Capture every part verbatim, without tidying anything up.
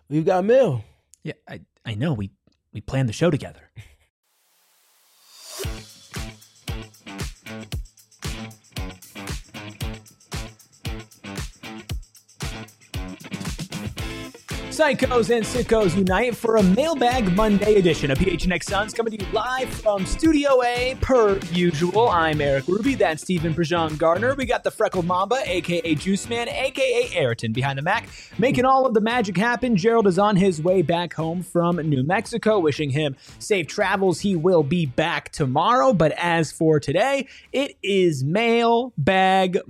We've got mail. Yeah, I, I know. We, we planned the show together. Psychos and Sickos unite for a Mailbag Monday edition of P H N X Suns, coming to you live from Studio A per usual. I'm Eric Ruby, that's Stephen Prejean Gardner. We got the Freckled Mamba, a k a. Juice Man, a k a. Ayrton behind the Mac, making all of the magic happen. Gerald is on his way back home from New Mexico, wishing him safe travels. He will be back tomorrow, but as for today, it is Mailbag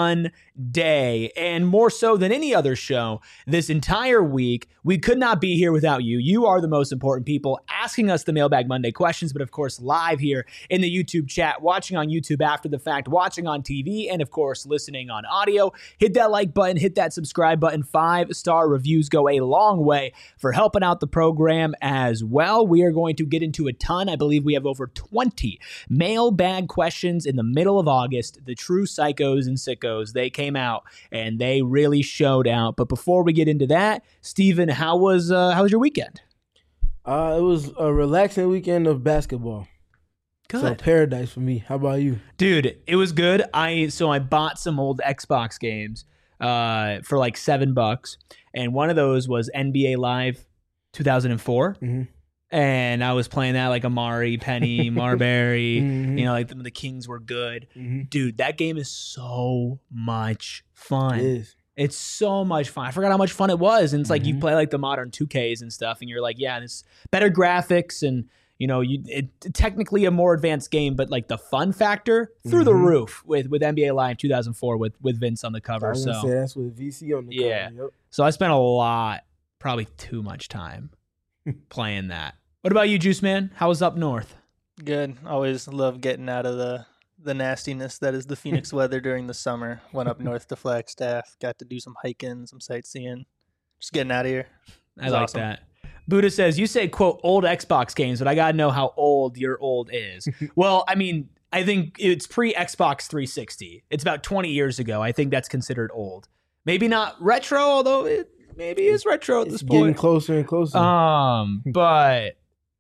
Monday, and more so than any other show this entire week, we could not be here without you. You are the most important people asking us the Mailbag Monday questions, but of course live here in the YouTube chat, watching on YouTube after the fact, watching on T V, and of course listening on audio. Hit that like button, hit that subscribe button. Five-star reviews go a long way for helping out the program as well. We are going to get into a ton. I believe we have over twenty mailbag questions in the middle of August. The true psychos and sickos, they came out and they really showed out. But before we get into that, Steven, how was uh, how was your weekend? Uh, it was a relaxing weekend of basketball. Good. So paradise for me. How about you? Dude, it was good. I so I bought some old Xbox games uh, for like seven bucks, and one of those was N B A Live two thousand four. Mm-hmm. And I was playing that like Amari, Penny, Marbury. Mm-hmm. You know, like the, the Kings were good. Mm-hmm. Dude, that game is so much fun. It is. It's so much fun. I forgot how much fun it was. And it's like Mm-hmm. you play like the modern two Ks and stuff, and you're like, yeah, it's better graphics and you know, you it, technically a more advanced game, but like the fun factor through the Mm-hmm. roof with with N B A Live two thousand four with with Vince on the cover. I was So gonna say that's with V C on the Yeah. cover. Yep. so I spent a lot, probably too much time playing that. What about you, Juice Man? How was up north? Good. Always love getting out of the the nastiness that is the Phoenix weather during the summer. Went up north to Flagstaff. Got to do some hiking, some sightseeing. Just getting out of here. I was like awesome. that. Buddha says, you say, quote, old Xbox games, but I got to know how old your old is. Well, I mean, I think it's pre-Xbox three sixty. It's about twenty years ago. I think that's considered old. Maybe not retro, although it maybe is retro at It's this getting point. closer and closer. Um, but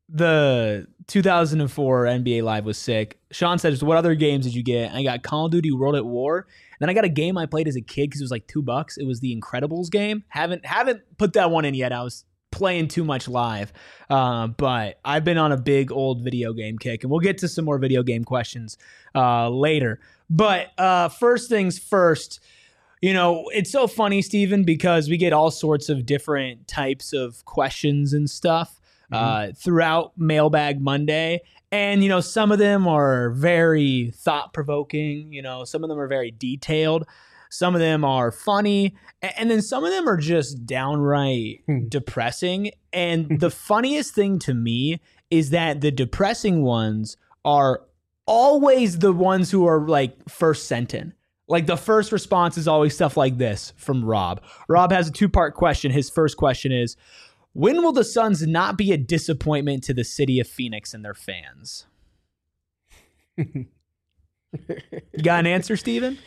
the two thousand four N B A Live was sick. Sean says, what other games did you get? I got Call of Duty World at War. Then I got a game I played as a kid because it was like two bucks. It was the Incredibles game. Haven't haven't put that one in yet. I was playing too much live. Uh, but I've been on a big old video game kick, and we'll get to some more video game questions uh, later. But uh, first things first, you know, it's so funny, Steven, because we get all sorts of different types of questions and stuff uh, throughout Mailbag Monday. And, you know, some of them are very thought-provoking. You know, some of them are very detailed. Some of them are funny. And then some of them are just downright depressing. And the funniest thing to me is that the depressing ones are always the ones who are like first sent in. Like the first response is always stuff like this from Rob. Rob has a two-part question. His first question is, when will the Suns not be a disappointment to the city of Phoenix and their fans? You got an answer, Steven?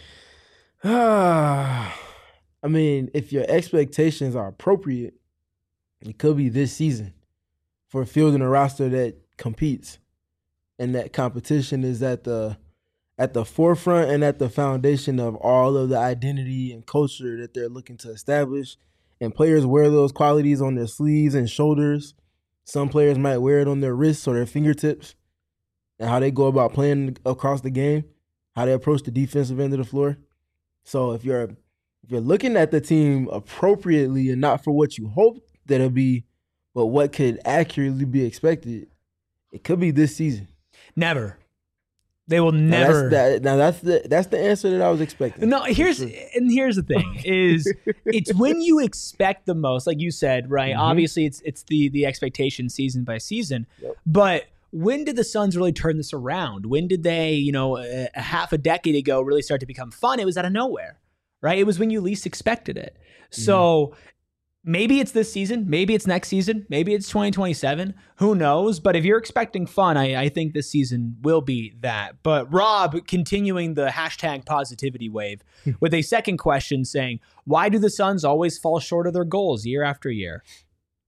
I mean, if your expectations are appropriate, it could be this season for fielding a roster that competes, and that competition is at the at the forefront and at the foundation of all of the identity and culture that they're looking to establish. And players wear those qualities on their sleeves and shoulders. Some players might wear it on their wrists or their fingertips, and how they go about playing across the game, how they approach the defensive end of the floor. So if you're if you're looking at the team appropriately and not for what you hope that it'll be, but what could accurately be expected, it could be this season. Never. They will never. Now that's, that, now that's the that's the answer that I was expecting. No, here's Sure. and here's the thing is it's when you expect the most, like you said, right? Mhm. Obviously, it's it's the the expectation season by season, Yep. but when did the Suns really turn this around? When did they, you know, a, a half a decade ago really start to become fun? It was out of nowhere, right? It was when you least expected it. So maybe it's this season, maybe it's next season, maybe it's twenty twenty-seven. Who knows? But if you're expecting fun, I, I think this season will be that. But Rob, continuing the hashtag positivity wave with a second question saying, why do the Suns always fall short of their goals year after year?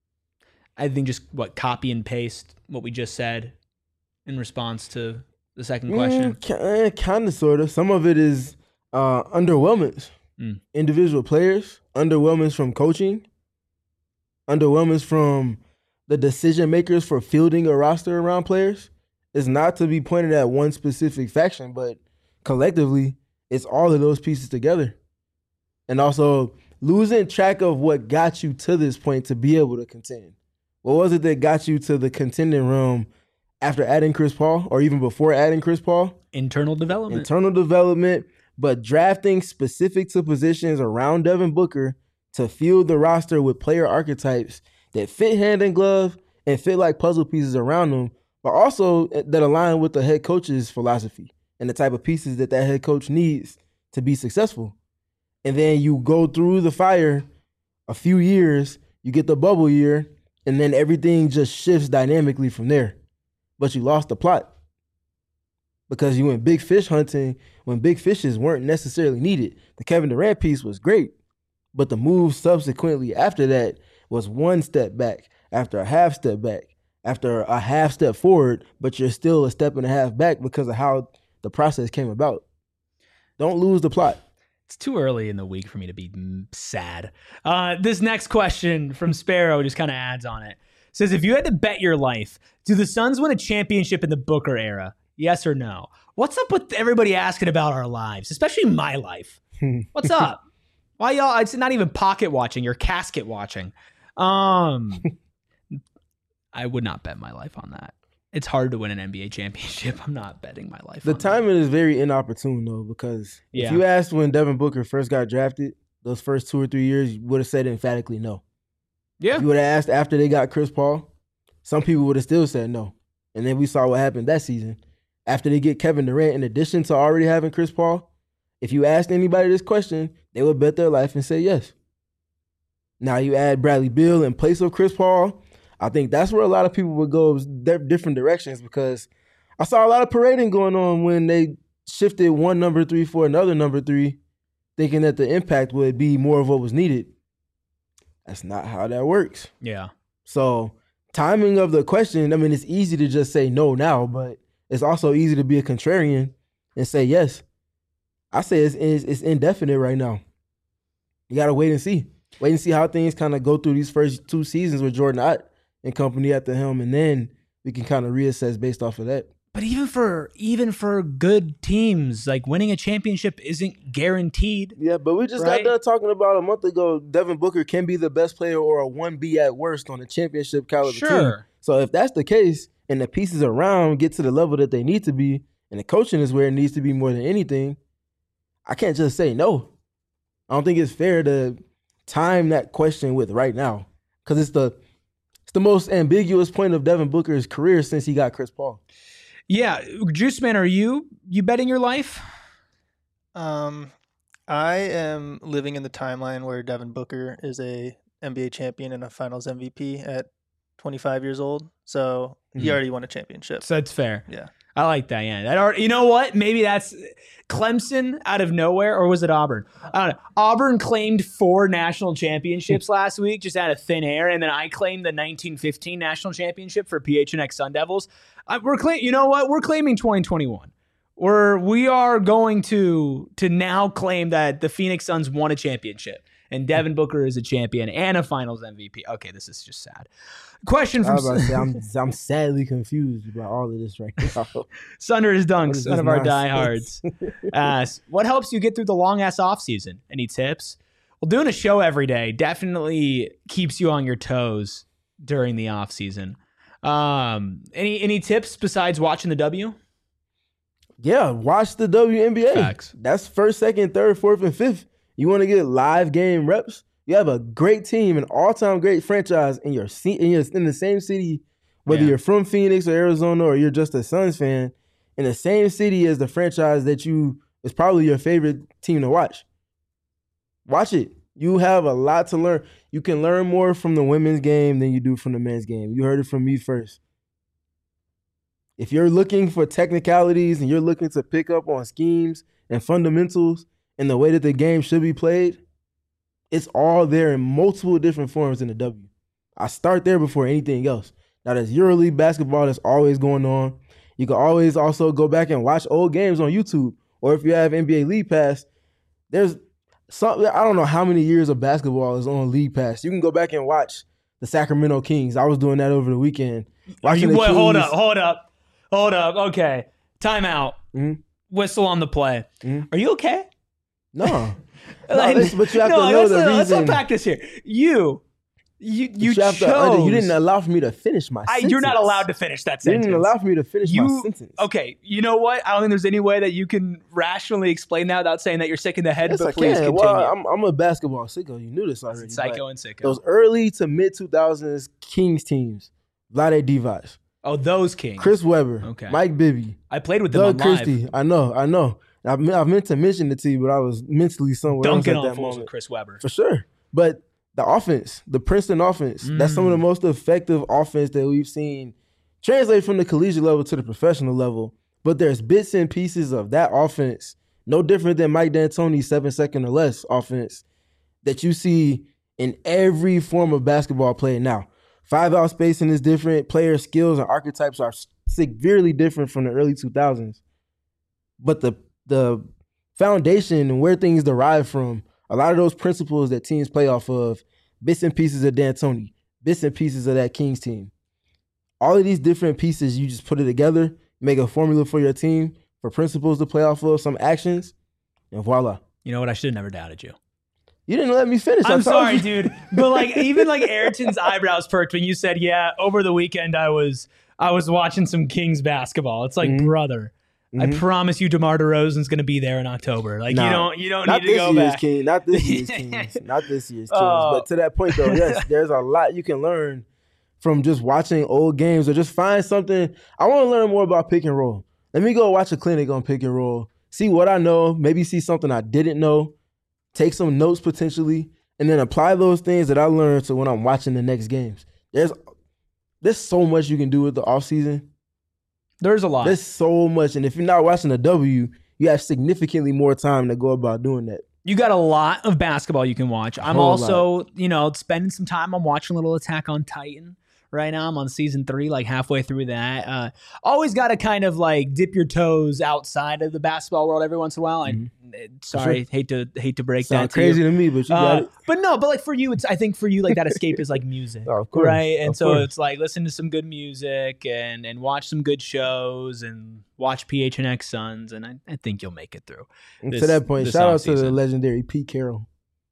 I think just what copy and paste what we just said in response to the second question. Mm, kind of, sort of. Some of it is uh, underwhelmance. Mm. Individual players, underwhelmance from coaching, underwhelmance from the decision makers for fielding a roster around players. It's not to be pointed at one specific faction, but collectively, it's all of those pieces together. And also losing track of what got you to this point to be able to contend. What was it that got you to the contending realm after adding Chris Paul or even before adding Chris Paul? Internal development. Internal development, but drafting specific to positions around Devin Booker to field the roster with player archetypes that fit hand in glove and fit like puzzle pieces around them, but also that align with the head coach's philosophy and the type of pieces that that head coach needs to be successful. And then you go through the fire a few years, you get the bubble year, and then everything just shifts dynamically from there. But you lost the plot because you went big fish hunting when big fishes weren't necessarily needed. The Kevin Durant piece was great, but the move subsequently after that was one step back, after a half step back, after a half step forward, but you're still a step and a half back because of how the process came about. Don't lose the plot. It's too early in the week for me to be sad. Uh, this next question from Sparrow just kind of adds on it. It says, if you had to bet your life, do the Suns win a championship in the Booker era? Yes or no? What's up with everybody asking about our lives, especially my life? What's up? Why y'all? It's not even pocket watching. You're casket watching. Um, I would not bet my life on that. It's hard to win an N B A championship. I'm not betting my life The on timing that. is very inopportune, though, because Yeah. if you asked when Devin Booker first got drafted, those first two or three years, you would have said emphatically no. Yeah. If you would have asked after they got Chris Paul, some people would have still said no. And then we saw what happened that season. After they get Kevin Durant, in addition to already having Chris Paul, if you asked anybody this question, they would bet their life and say yes. Now you add Bradley Beal in place of Chris Paul, I think that's where a lot of people would go different directions, because I saw a lot of parading going on when they shifted one number three for another number three, thinking that the impact would be more of what was needed. That's not how that works. Yeah. So timing of the question, I mean, it's easy to just say no now, but it's also easy to be a contrarian and say yes. I say it's, it's, it's indefinite right now. You got to wait and see. Wait and see how things kind of go through these first two seasons with Jordan Ott and company at the helm, and then we can kind of reassess based off of that. But even for even for good teams, like winning a championship isn't guaranteed. Yeah, but we just right? got done talking about a month ago, Devin Booker can be the best player or a one B at worst on a championship caliber Sure. team. So if that's the case and the pieces around get to the level that they need to be and the coaching is where it needs to be more than anything, I can't just say no. I don't think it's fair to time that question with right now, because it's the it's the most ambiguous point of Devin Booker's career since he got Chris Paul. Yeah, Juice Man, are you you betting your life? Um, I am living in the timeline where Devin Booker is a N B A champion and a Finals M V P at twenty-five years old. So he Mhm. already won a championship. So that's fair. Yeah. I like that. Yeah, that already, you know what? Maybe that's Clemson out of nowhere, or was it Auburn? I don't know. Auburn claimed four national championships last week, just out of thin air, and then I claimed the nineteen fifteen national championship for P H N X Sun Devils. I, we're claim, you know what? We're claiming twenty twenty-one. We're we are going to to now claim that the Phoenix Suns won a championship, and Devin Booker is a champion and a Finals M V P. Okay, this is just sad. Question I from was about to say, I'm, I'm sadly confused about all of this right now. Sunder is What Dunks, is one this of our nonsense? diehards. Asks, what helps you get through the long ass off season? Any tips? Well, doing a show every day definitely keeps you on your toes during the off season. Um, any any tips besides watching the W? Yeah, watch the W N B A. Facts. That's first, second, third, fourth, and fifth. You want to get live game reps? You have a great team, an all-time great franchise in your se- in, your, in the same city, whether Yeah. you're from Phoenix or Arizona or you're just a Suns fan, in the same city as the franchise that you is probably your favorite team to watch. Watch it. You have a lot to learn. You can learn more from the women's game than you do from the men's game. You heard it from me first. If you're looking for technicalities and you're looking to pick up on schemes and fundamentals and the way that the game should be played, it's all there in multiple different forms in the W. I start there before anything else. Now, there's EuroLeague basketball that's always going on. You can always also go back and watch old games on YouTube. Or if you have N B A League Pass, there's some, I don't know how many years of basketball is on League Pass. You can go back and watch the Sacramento Kings. I was doing that over the weekend. Are you, the wait, hold Kings- up, hold up, hold up. Okay. Timeout. Mhm. Whistle on the play. Mhm. Are you okay? No. no Like, listen, but you have no, to know let's, the let's reason. unpack this here. You, you, But you, have chose. to under- you didn't allow for me to finish my I, sentence. you're not allowed to finish that You sentence. didn't allow for me to finish You- my sentence. Okay, you know what? I don't think there's any way that you can rationally explain that without saying that you're sick in the head. Yes, but I please can. continue. Well, I'm, I'm a basketball sicko. You knew this already. Psycho but and sicko. Those early to mid two thousands Kings teams, Vlade Divac, oh, those Kings. Chris Webber, Okay. Mike Bibby, I played with them Doug on live. Christie. I know, I know. I, me- I meant to mention it to you, but I was mentally somewhere Dunking else on at that fools with moment. Chris Webber. For sure. But the offense, the Princeton offense, that's some of the Mm. most effective offense that we've seen translate from the collegiate level to the professional level. But there's bits and pieces of that offense, no different than Mike D'Antoni's seven second or less offense, that you see in every form of basketball play now. Five out spacing is different. Player skills and archetypes are severely different from the early two thousands. But the the foundation and where things derive from, a lot of those principles that teams play off of, bits and pieces of D'Antoni, bits and pieces of that Kings team. All of these different pieces, you just put it together, make a formula for your team, for principles to play off of, some actions, and voila. You know what? I should have never doubted you. You didn't let me finish. I I'm told sorry, you. dude. But like, even like Ayrton's eyebrows perked when you said, "Yeah, over the weekend I was I was watching some Kings basketball." It's like, Mhm. brother, I Mhm. promise you, DeMar DeRozan's going to be there in October. Like, Nah. you don't you don't Not need to this go year's back. King, not this year's Kings, not this year's Kings. Oh. But to that point, though, yes, there's a lot you can learn from just watching old games, or just find something. I want to learn more about pick and roll. Let me go watch a clinic on pick and roll, see what I know, maybe see something I didn't know, take some notes potentially, and then apply those things that I learned to when I'm watching the next games. There's there's so much you can do with the offseason. There's a lot. There's so much. And if you're not watching the W, you have significantly more time to go about doing that. You got a lot of basketball you can watch. I'm whole also, you know, spending some time. I'm watching a little Attack on Titan right now. I'm on season three, like halfway through that. Uh, always got to kind of like dip your toes outside of the basketball world every once in a while. I, sorry, hate to hate to break Sound that to crazy you. to me, but you got Uh, it. but no, but like for you, it's I think for you like that escape is like music, Oh, of course, right? And of so course. it's like listen to some good music and and watch some good shows and watch P H N X Suns, and I, I think you'll make it through. And this- to that point, this shout out to the offseason. legendary Pete Carroll.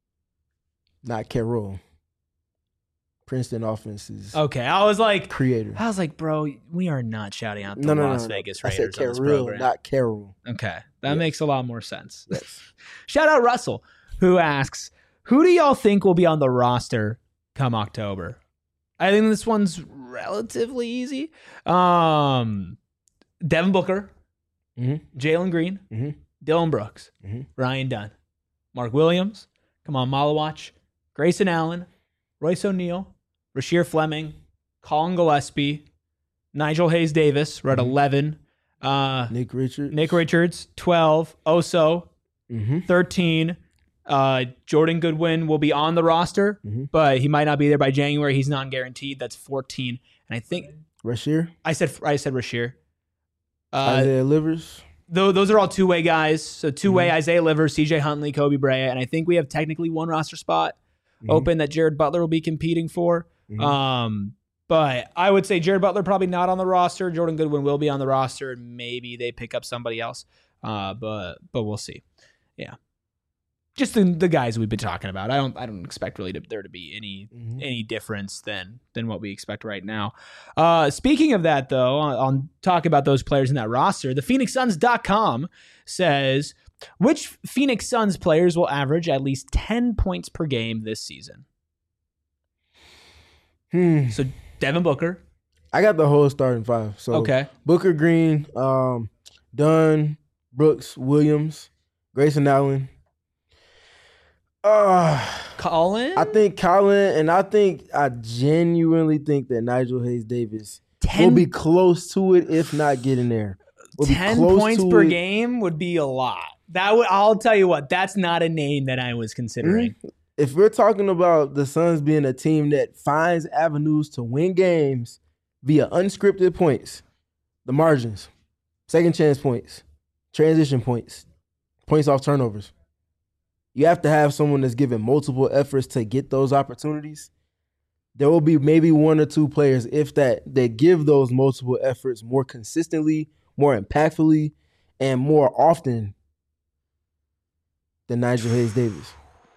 Not Carroll. Princeton offense's Okay, I was like, creator. I was like, bro, we are not shouting out the No, no, no, Las no. Vegas I said Raiders on this Carroll, program. not Carroll. Okay, that Yes. makes a lot more sense. Yes. Shout out Russell, who asks, who do y'all think will be on the roster come October? I think this one's relatively easy. Um, Devin Booker, Mhm. Jalen Green, Mhm. Dylan Brooks, Mhm. Ryan Dunn, Mark Williams, come on, Malawach, Grayson Allen, Royce O'Neal, Rasheer Fleming, Colin Gillespie, Nigel Hayes Davis, we're at Mhm. eleven. Uh, Nick Richards. Nick Richards, twelve. Oso, Mm-hmm. thirteen. Uh, Jordan Goodwin will be on the roster, Mhm. but he might not be there by January. He's non-guaranteed. That's fourteen. And I think Rasheer. I said I said Rasheer. Uh, Isaiah Livers. though those are all two-way guys. So two-way Mhm. Isaiah Livers, C J Huntley, Kobe Bryant, and I think we have technically one roster spot Mhm. open that Jared Butler will be competing for. Mhm. Um, but I would say Jared Butler probably not on the roster. Jordan Goodwin will be on the roster, and maybe they pick up somebody else. Uh, but but we'll see. Yeah, just the, the guys we've been talking about. I don't I don't expect really to, there to be any Mhm. any difference than than what we expect right now. Uh, speaking of that, though, on, on talk about those players in that roster, the Phoenix Suns dot com says which Phoenix Suns players will average at least ten points per game this season. Hmm. So Devin Booker. I got the whole starting five. So Okay. Booker, Green, um, Dunn, Brooks, Williams, Grayson Allen. Uh, Colin? I think Colin, and I think I genuinely think that Nigel Hayes Davis will ten, be close to it, if not getting there. Will be ten close points to per it. game would be a lot. That would I'll tell you what, that's not a name that I was considering. if we're talking about the Suns being a team that finds avenues to win games via unscripted points, the margins, second chance points, transition points, points off turnovers, you have to have someone that's given multiple efforts to get those opportunities. There will be maybe one or two players, if that, that give those multiple efforts more consistently, more impactfully, and more often than Nigel Hayes-Davis.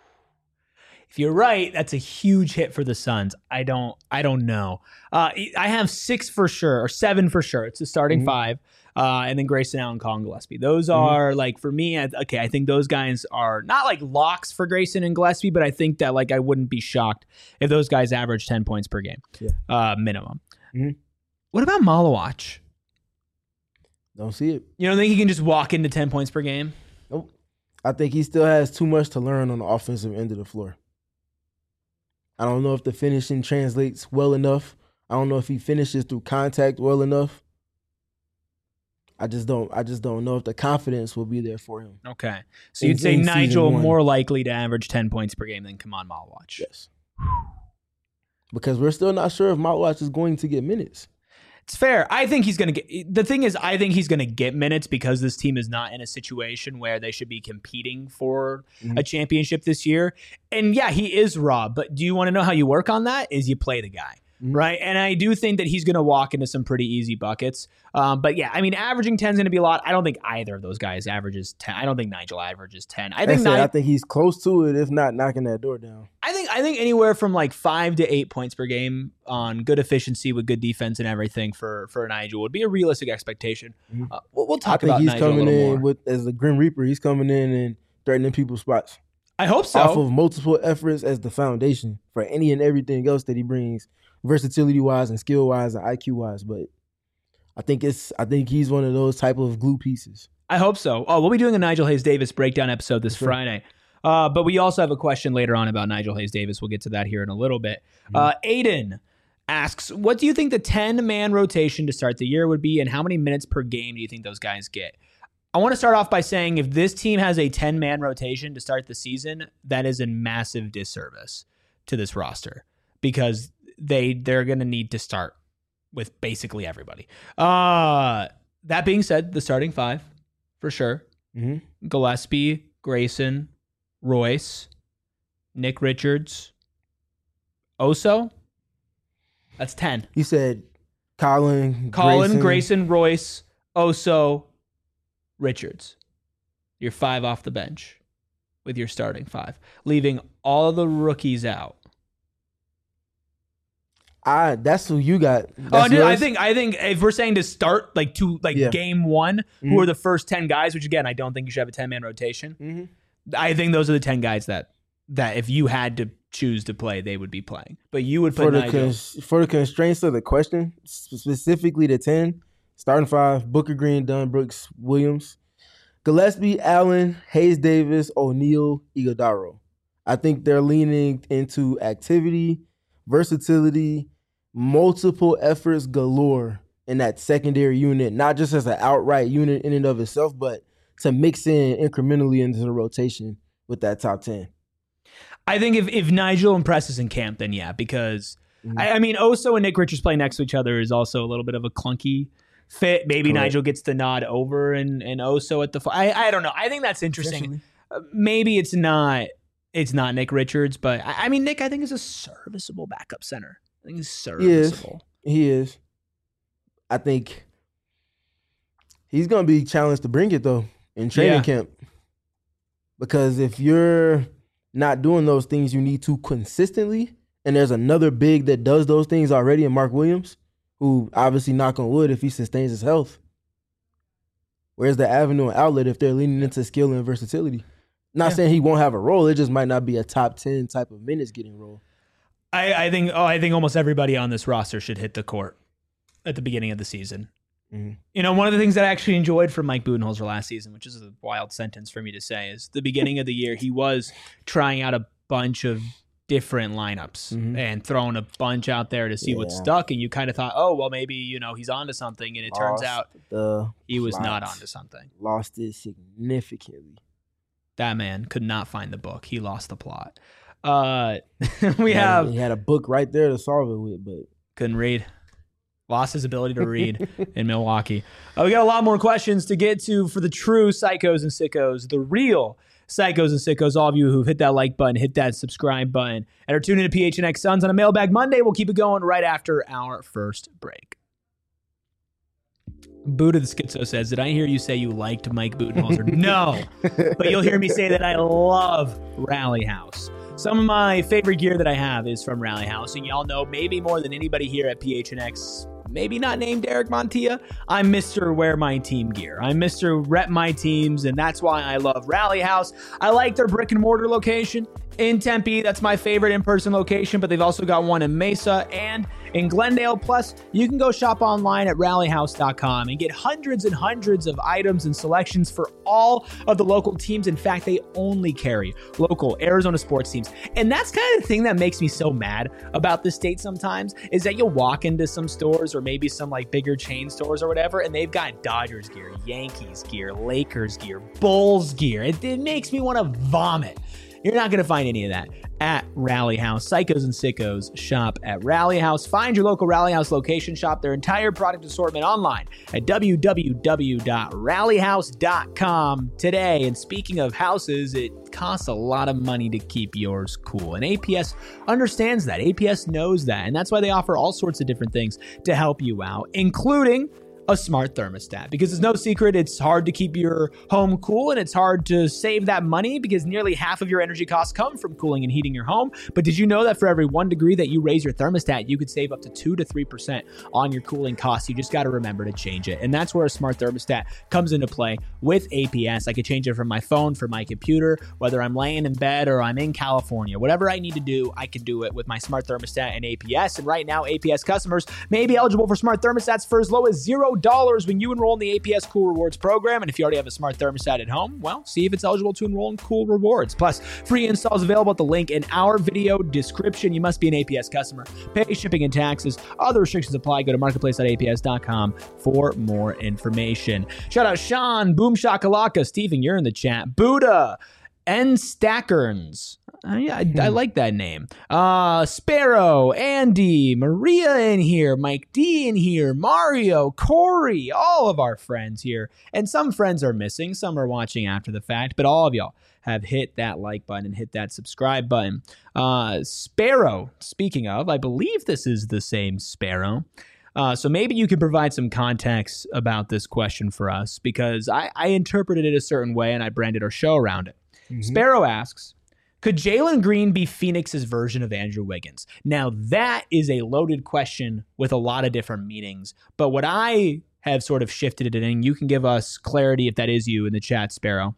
If you're right, that's a huge hit for the Suns. I don't I don't know. Uh, I have six for sure, or seven for sure. It's the starting mm-hmm. five. Uh, and then Grayson Allen, Colin Gillespie. Those are, mm-hmm. like, for me, I, okay, I think those guys are not, like, locks for Grayson and Gillespie, but I think that, like, I wouldn't be shocked if those guys average ten points per game, yeah. uh, minimum. Mm-hmm. What about Malawach? Don't see it. You don't think he can just walk into ten points per game? Nope. I think he still has too much to learn on the offensive end of the floor. I don't know if the finishing translates well enough. I don't know if he finishes through contact well enough. I just don't. I just don't know if the confidence will be there for him. Okay, so you'd say Nigel more likely to average ten points per game than Kaman Malawach. Yes, because we're still not sure if Malawach is going to get minutes. It's fair. I think he's going to get. The thing is, I think he's going to get minutes because this team is not in a situation where they should be competing for mm-hmm. a championship this year. And yeah, he is raw. But do you want to know how you work on that? Is you play the guy. Right. And I do think that he's going to walk into some pretty easy buckets. Um, but yeah, I mean, averaging ten is going to be a lot. I don't think either of those guys averages ten. I don't think Nigel averages ten. I think Ni- I think he's close to it, if not knocking that door down. I think I think anywhere from like five to eight points per game on good efficiency with good defense and everything for, for Nigel would be a realistic expectation. Mm-hmm. Uh, we'll, we'll talk about Nigel a little more. I think he's coming in with, as the Grim Reaper. He's coming in and threatening people's spots. I hope so. Off of multiple efforts as the foundation for any and everything else that he brings, versatility-wise and skill-wise and I Q-wise. But I think it's I think he's one of those type of glue pieces. I hope so. Oh, we'll be doing a Nigel Hayes-Davis breakdown episode this sure. Friday. Uh, but we also have a question later on about Nigel Hayes-Davis. We'll get to that here in a little bit. Mm-hmm. Uh, Aiden asks, what do you think the ten-man rotation to start the year would be, and how many minutes per game do you think those guys get? I want to start off by saying if this team has a ten-man rotation to start the season, that is a massive disservice to this roster because they, they're going to need to start with basically everybody. Uh, that being said, the starting five, for sure. Mm-hmm. Gillespie, Grayson, Royce, Nick Richards, Oso. That's ten. You said Colin, Colin, Grayson, Grayson Royce, Oso, Richards. You're five off the bench with your starting five, leaving all the rookies out. I that's who you got. That's oh, dude, I think I think if we're saying to start like to like yeah. game one, mm-hmm. who are the first ten guys? Which again, I don't think you should have a ten man rotation. Mm-hmm. I think those are the ten guys that that if you had to choose to play, they would be playing. But you would put for the Nigel. Cons- for the constraints of the question, specifically the ten. Starting five, Booker Green, Dunn, Brooks, Williams, Gillespie, Allen, Hayes-Davis, O'Neal, Iguodaro. I think they're leaning into activity, versatility, multiple efforts galore in that secondary unit, not just as an outright unit in and of itself, but to mix in incrementally into the rotation with that top ten. I think if, if Nigel impresses in camp, then yeah, because, mm-hmm. I, I mean, Oso and Nick Richards playing next to each other is also a little bit of a clunky fit. Maybe Correct. Nigel gets the nod over and, and Oso at the I I don't know. I think that's interesting. Uh, maybe it's not it's not Nick Richards, but I, I mean Nick I think is a serviceable backup center. I think he's serviceable. He is. He is. I think he's gonna be challenged to bring it though in training yeah. camp. Because if you're not doing those things you need to consistently, and there's another big that does those things already in Mark Williams, who obviously, knock on wood, if he sustains his health, where's the avenue and outlet if they're leaning into skill and versatility? Not yeah. saying he won't have a role. It just might not be a top ten type of minutes getting role. I, I think oh, I think almost everybody on this roster should hit the court at the beginning of the season. Mm-hmm. You know, one of the things that I actually enjoyed from Mike Budenholzer last season, which is a wild sentence for me to say, is the beginning of the year, he was trying out a bunch of different lineups mm-hmm. and throwing a bunch out there to see yeah. what stuck, and you kind of thought, oh well, maybe you know he's onto something, and it lost turns out he was plot. not onto something. Lost it significantly. That man could not find the book. He lost the plot. Uh, we He had- have he had a book right there to solve it with, but couldn't read. Lost his ability to read in Milwaukee. Uh, we got a lot more questions to get to for the true psychos and sickos, the real psychos and sickos. All of you who've hit that like button, hit that subscribe button, and are tuning in to P H N X Suns on a Mailbag Monday. We'll keep it going right after our first break. Buddha the Schizo says, did I hear you say you liked Mike Budenholzer? No, but you'll hear me say that I love Rally House. Some of my favorite gear that I have is from Rally House, and y'all know maybe more than anybody here at P H N X, maybe not named Derek Montilla, I'm Mister Wear My Team gear. I'm Mister Rep My Teams, and that's why I love Rally House. I like their brick and mortar location in Tempe. That's my favorite in-person location, but they've also got one in Mesa and in Glendale. Plus, you can go shop online at rally house dot com and get hundreds and hundreds of items and selections for all of the local teams. In fact, they only carry local Arizona sports teams. And that's kind of the thing that makes me so mad about the state sometimes, is that you'll walk into some stores or maybe some like bigger chain stores or whatever, and they've got Dodgers gear, Yankees gear, Lakers gear, Bulls gear. It, it makes me want to vomit. You're not going to find any of that at Rally House. Psychos and sickos shop at Rally House. Find your local Rally House location. Shop their entire product assortment online at w w w dot rally house dot com today. And speaking of houses, it costs a lot of money to keep yours cool. And A P S understands that. A P S knows that. And that's why they offer all sorts of different things to help you out, including a smart thermostat, because it's no secret it's hard to keep your home cool and it's hard to save that money because nearly half of your energy costs come from cooling and heating your home. But did you know that for every one degree that you raise your thermostat, you could save up to two to three percent on your cooling costs? You just got to remember to change it. And that's where a smart thermostat comes into play with A P S. I could change it from my phone, from my computer, whether I'm laying in bed or I'm in California. Whatever I need to do, I can do it with my smart thermostat and A P S. And right now, A P S customers may be eligible for smart thermostats for as low as zero dollars when you enroll in the A P S Cool Rewards program. And if you already have a smart thermostat at home, well, see if it's eligible to enroll in Cool Rewards. Plus, free installs available at the link in our video description. You must be an A P S customer. Pay shipping and taxes. Other restrictions apply. Go to marketplace dot a p s dot com for more information. Shout out Sean, Boom Shakalaka, Steven, you're in the chat. Buddha, N Stackerns. Uh, yeah, I, I like that name. Uh, Sparrow, Andy, Maria in here, Mike D in here, Mario, Corey, all of our friends here. And some friends are missing, some are watching after the fact, but all of y'all have hit that like button and hit that subscribe button. Uh, Sparrow, speaking of, I believe this is the same Sparrow. Uh, so maybe you could provide some context about this question for us, because I, I interpreted it a certain way and I branded our show around it. Mm-hmm. Sparrow asks, could Jalen Green be Phoenix's version of Andrew Wiggins? Now, that is a loaded question with a lot of different meanings. But what I have sort of shifted it in, you can give us clarity if that is you in the chat, Sparrow.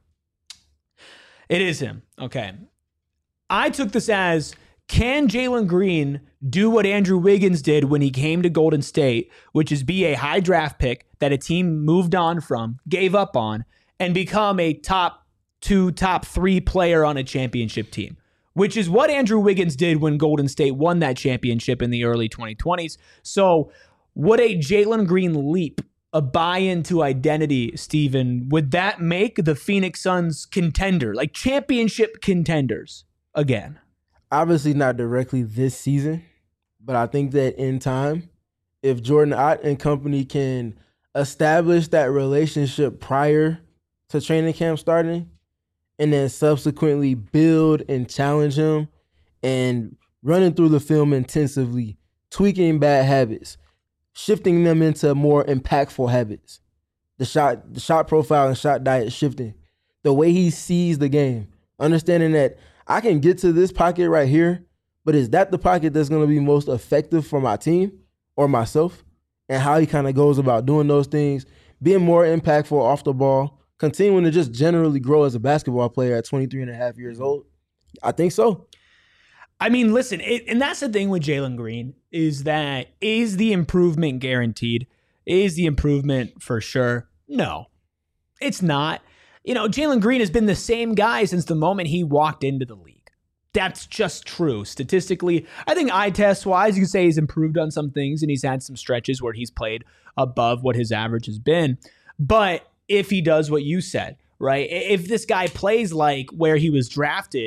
It is him. Okay. I took this as, can Jalen Green do what Andrew Wiggins did when he came to Golden State, which is be a high draft pick that a team moved on from, gave up on, and become a top two, top three player on a championship team, which is what Andrew Wiggins did when Golden State won that championship in the early twenty twenties. So would a Jalen Green leap, a buy-in to identity, Steven, would that make the Phoenix Suns contender, like championship contenders again? Obviously not directly this season, but I think that in time, if Jordan Ott and company can establish that relationship prior to training camp starting, and then subsequently build and challenge him and running through the film intensively, tweaking bad habits, shifting them into more impactful habits. The shot, the shot profile and shot diet shifting. The way he sees the game, understanding that I can get to this pocket right here, but is that the pocket that's going to be most effective for my team or myself? And how he kind of goes about doing those things, being more impactful off the ball, continuing to just generally grow as a basketball player at twenty-three and a half years old? I think so. I mean, listen, it, and that's the thing with Jalen Green, is that is the improvement guaranteed? Is the improvement for sure? No, it's not. You know, Jalen Green has been the same guy since the moment he walked into the league. That's just true. Statistically, I think eye test wise, you can say he's improved on some things and he's had some stretches where he's played above what his average has been. But if he does what you said, right? If this guy plays like where he was drafted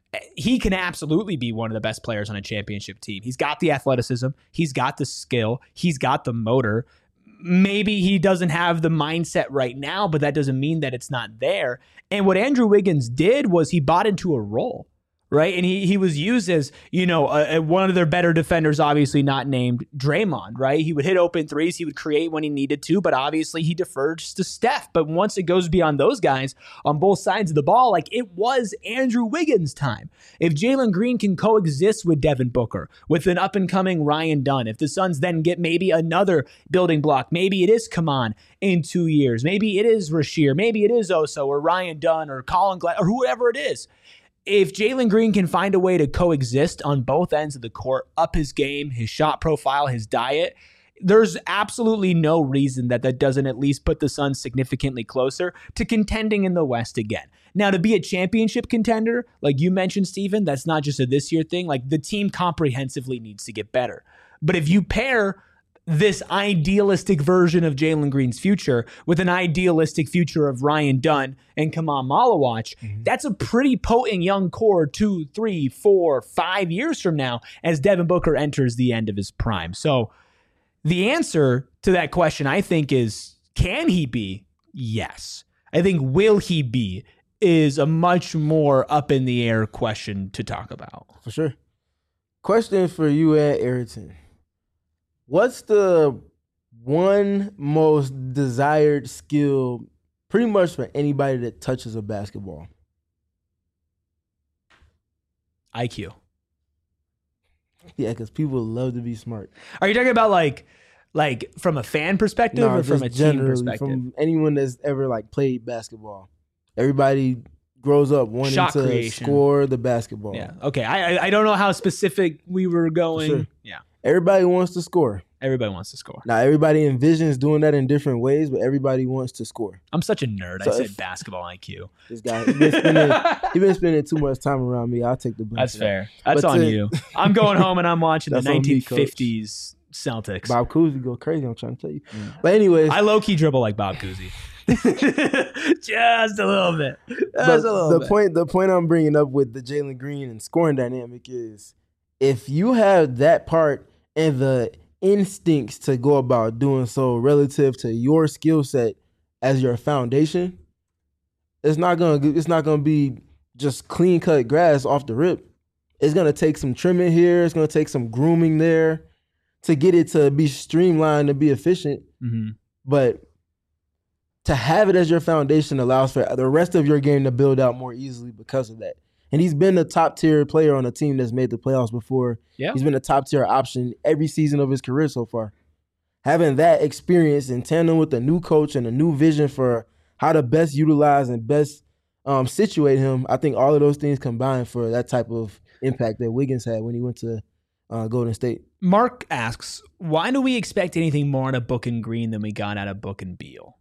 he can absolutely be one of the best players on a championship team. He's got the athleticism. He's got the skill. He's got the motor. Maybe he doesn't have the mindset right now, but that doesn't mean that it's not there. And what Andrew Wiggins did was he bought into a role. Right. And he he was used as, you know, a, a, one of their better defenders, obviously not named Draymond. Right. He would hit open threes. He would create when he needed to. But obviously he defers to Steph. But once it goes beyond those guys on both sides of the ball, like it was Andrew Wiggins' time. If Jalen Green can coexist with Devin Booker, with an up and coming Ryan Dunn, if the Suns then get maybe another building block, maybe it is Kaman in two years, maybe it is Rasheer, maybe it is Oso or Ryan Dunn or Colin Glad or whoever it is. If Jalen Green can find a way to coexist on both ends of the court, up his game, his shot profile, his diet, there's absolutely no reason that that doesn't at least put the Suns significantly closer to contending in the West again. Now, to be a championship contender, like you mentioned, Stephen, that's not just a this year thing. Like the team comprehensively needs to get better. But if you pair this idealistic version of Jalen Green's future with an idealistic future of Ryan Dunn and Kaman Malawach, mm-hmm. that's a pretty potent young core two, three, four, five years from now as Devin Booker enters the end of his prime. So the answer to that question, I think, is can he be? Yes. I think will he be is a much more up in the air question to talk about. For sure. Question for you and Ayrton. What's the one most desired skill pretty much for anybody that touches a basketball? I Q. Yeah, because people love to be smart. Are you talking about like like from a fan perspective no, or from a team perspective? From anyone that's ever like played basketball. Everybody grows up wanting Shot to creation. Score the basketball. Yeah. Okay. I I don't know how specific we were going. Sure. Yeah. Everybody wants to score. Everybody wants to score. Now, everybody envisions doing that in different ways, but everybody wants to score. I'm such a nerd. So I said if, basketball I Q. This guy, he's been, spending, he been spending too much time around me. I'll take the blame. That's for fair. That. That's but on to, you. I'm going home and I'm watching the That's on me, nineteen fifties Celtics. Bob Cousy go crazy. I'm trying to tell you. Mm. But anyways, I low key dribble like Bob Cousy. Just a little bit. Just but a little the bit. point, the point I'm bringing up with the Jalen Green and scoring dynamic is if you have that part and the instincts to go about doing so relative to your skill set as your foundation, it's not gonna it's not gonna be just clean cut grass off the rip. It's gonna take some trimming here. It's gonna take some grooming there to get it to be streamlined and be efficient. Mm-hmm. But to have it as your foundation allows for the rest of your game to build out more easily because of that. And he's been a top-tier player on a team that's made the playoffs before. Yeah. He's been a top-tier option every season of his career so far. Having that experience in tandem with a new coach and a new vision for how to best utilize and best um, situate him, I think all of those things combined for that type of impact that Wiggins had when he went to uh, Golden State. Mark asks, why do we expect anything more out of Book and Green than we got out of Book and Beal?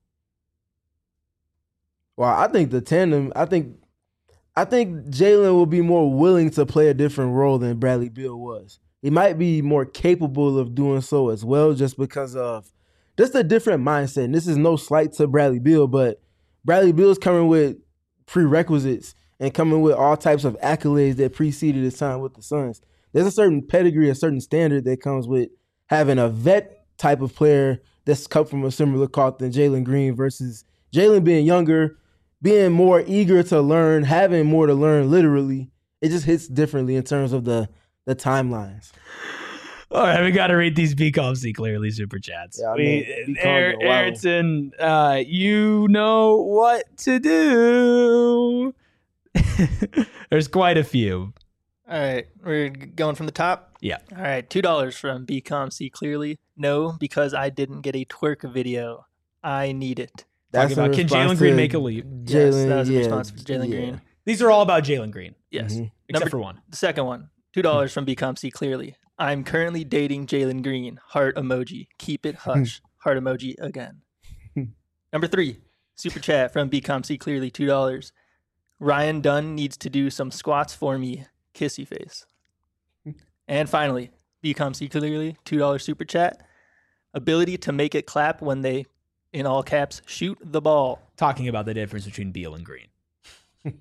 Well, I think the tandem, I think I think Jalen will be more willing to play a different role than Bradley Beal was. He might be more capable of doing so as well just because of just a different mindset. And this is no slight to Bradley Beal, but Bradley Beal's coming with prerequisites and coming with all types of accolades that preceded his time with the Suns. There's a certain pedigree, a certain standard that comes with having a vet type of player that's come from a similar cloth than Jalen Green versus Jalen being younger, being more eager to learn, having more to learn literally. It just hits differently in terms of the the timelines. All right, we got to read these B Com C clearly super chats. Yeah, I we, mean, Air, Ayrton, uh, you know what to do. There's quite a few. All right, we're going from the top? Yeah. All right, two dollars from B Com C clearly. No, because I didn't get a twerk video. I need it. Talking about, can Jalen Green make a leap? Jalen, yes, that was a yeah, response for Jalen yeah. Green. These are all about Jalen Green. Yes. Mm-hmm. Except Number, for one. The second one, two dollars from B Com C clearly. I'm currently dating Jalen Green. Heart emoji. Keep it hush. Heart emoji again. Number three, super chat from B Com C clearly, two dollars. Ryan Dunn needs to do some squats for me. Kissy face. And finally, B Com C clearly, two dollars super chat. Ability to make it clap when they, in all caps, shoot the ball. Talking about the difference between Beal and Green.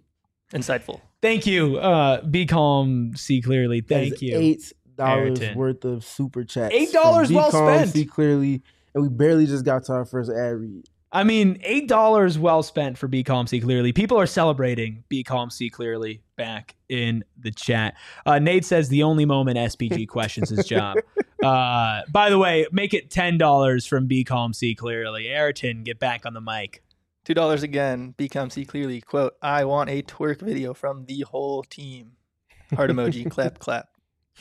Insightful. Thank you. Uh, be calm, see clearly. That Thank is you. Eight dollars Ayrton. worth of super chats. Eight dollars from well Be Calm, spent. See clearly, and we barely just got to our first ad read. I mean, eight dollars well spent for Be Calm, See Clearly. People are celebrating Be Calm, See Clearly back in the chat. Uh, Nate says the only moment S P G questions his job. Uh, by the way, make it ten dollars from Be Calm, See Clearly. Ayrton, get back on the mic. Two dollars again. Become see clearly. Quote: I want a twerk video from the whole team. Heart emoji. Clap, clap.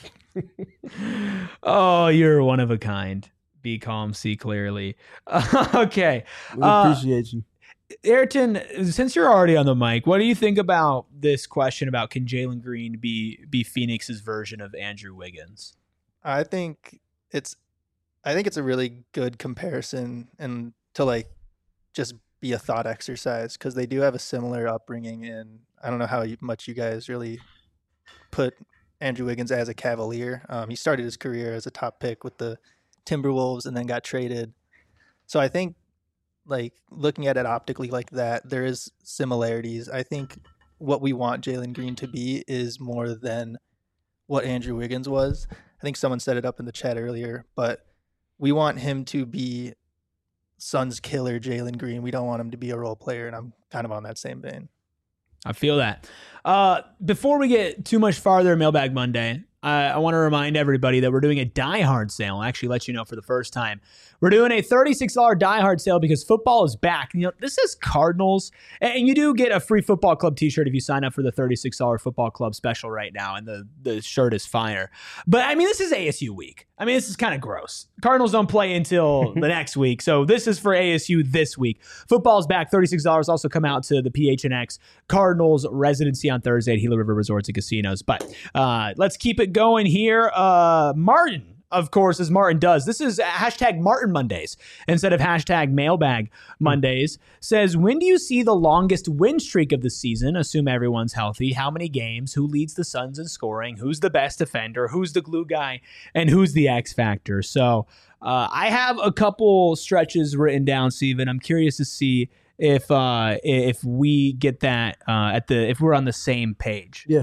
Oh, you're one of a kind. Be calm, see clearly. Uh, okay. We Uh, appreciate you. Ayrton, since you're already on the mic, what do you think about this question about can Jalen Green be be Phoenix's version of Andrew Wiggins? I think it's, I think it's a really good comparison, and to like just be a thought exercise, because they do have a similar upbringing. And I don't know how you, much you guys really put Andrew Wiggins as a Cavalier. Um, he started his career as a top pick with the Timberwolves and then got traded. So I think, like, looking at it optically like that, there is similarities. I think what we want Jalen Green to be is more than what Andrew Wiggins was. I think someone set it up in the chat earlier, but we want him to be Suns killer Jalen Green. We don't want him to be a role player, and I'm kind of on that same vein. I feel that. Uh, before we get too much farther in Mailbag Monday, I, I want to remind everybody that we're doing a Die Hard sale. I'll actually let you know for the first time. We're doing a thirty-six dollars Die Hard sale because football is back. You know, this is Cardinals, and you do get a free football club t-shirt if you sign up for the thirty-six dollars football club special right now, and the, the shirt is fire. But, I mean, this is A S U week. I mean, this is kind of gross. Cardinals don't play until the next week, so this is for A S U this week. Football's back, thirty-six dollars. Also come out to the P H N X Cardinals residency on Thursday at Gila River Resorts and Casinos. But uh, let's keep it going here. Uh, Martin, of course, as Martin does. This is hashtag Martin Mondays instead of hashtag Mailbag Mondays. Says, when do you see the longest win streak of the season? Assume everyone's healthy. How many games? Who leads the Suns in scoring? Who's the best defender? Who's the glue guy? And who's the X factor? So uh, I have a couple stretches written down, Steven. I'm curious to see if uh, if we get that uh, at the if we're on the same page. Yeah.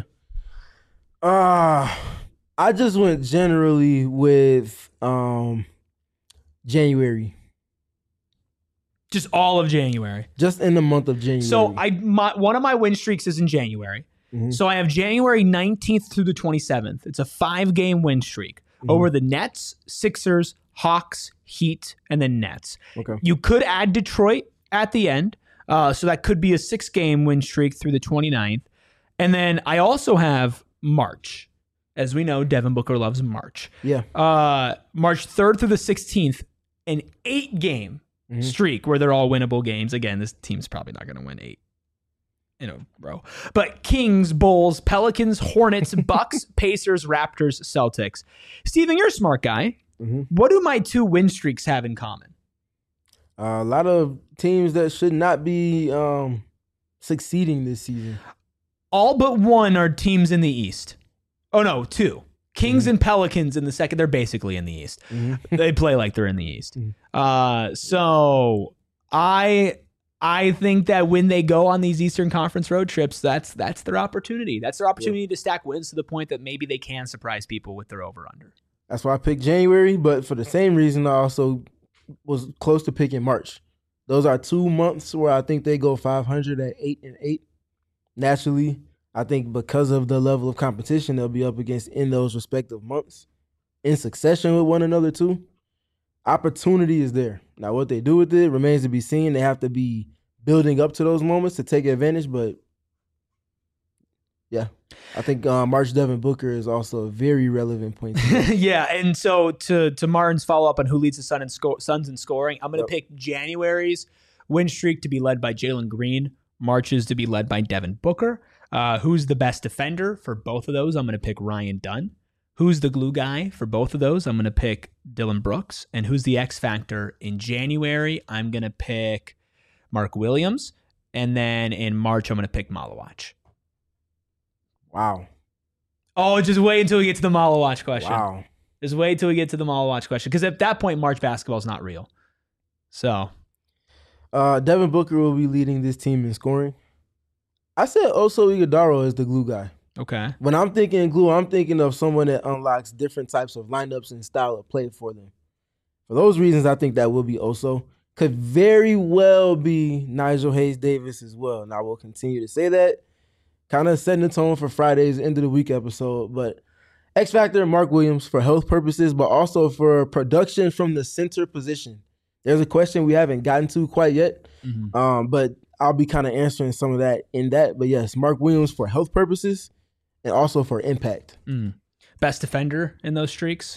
Uh I just went generally with um January. Just all of January. Just in the month of January. So I my, one of my win streaks is in January. Mm-hmm. So I have January nineteenth through the twenty-seventh. It's a five-game win streak mm-hmm. over the Nets, Sixers, Hawks, Heat, and then Nets. Okay. You could add Detroit at the end. Uh, so that could be a six-game win streak through the twenty-ninth. And then I also have March. As we know, Devin Booker loves March. Yeah. Uh, March third through the sixteenth, an eight-game mm-hmm. streak where they're all winnable games. Again, this team's probably not going to win eight in a row. But Kings, Bulls, Pelicans, Hornets, Bucks, Pacers, Raptors, Celtics. Steven, you're a smart guy. Mm-hmm. What do my two win streaks have in common? Uh, a lot of teams that should not be um, succeeding this season. All but one are teams in the East. Oh, no, two. Kings mm-hmm. and Pelicans in the second. They're basically in the East. Mm-hmm. They play like they're in the East. Mm-hmm. Uh, so I I think that when they go on these Eastern Conference road trips, that's that's their opportunity. That's their opportunity yeah. to stack wins to the point that maybe they can surprise people with their over-under. That's why I picked January, but for the same reason, I also was close to picking March. Those are two months where I think they go five hundred at eight and eight. Naturally, I think because of the level of competition they'll be up against in those respective months, in succession with one another too, opportunity is there. Now, what they do with it remains to be seen. They have to be building up to those moments to take advantage, but yeah, I think uh, March Devin Booker is also a very relevant point. Yeah, and so to to Martin's follow-up on who leads the Sun in sco- Suns in scoring, I'm going to yep. pick January's win streak to be led by Jalen Green, March's to be led by Devin Booker. Uh, who's the best defender for both of those? I'm going to pick Ryan Dunn. Who's the glue guy for both of those? I'm going to pick Dylan Brooks. And who's the X factor in January? I'm going to pick Mark Williams. And then in March, I'm going to pick Malawach. Wow. Oh, just wait until we get to the Malawach question. Wow. Just wait until we get to the Malawach question. Because at that point, March basketball is not real. So. Uh, Devin Booker will be leading this team in scoring. I said Oso Ighodaro is the glue guy. Okay. When I'm thinking glue, I'm thinking of someone that unlocks different types of lineups and style of play for them. For those reasons, I think that will be Oso. Could very well be Nigel Hayes-Davis as well. And I will continue to say that. Kind of setting the tone for Friday's end of the week episode. But X Factor, Mark Williams for health purposes, but also for production from the center position. There's a question we haven't gotten to quite yet. Mm-hmm. Um, but I'll be kind of answering some of that in that. But yes, Mark Williams for health purposes and also for impact. Mm. Best defender in those streaks?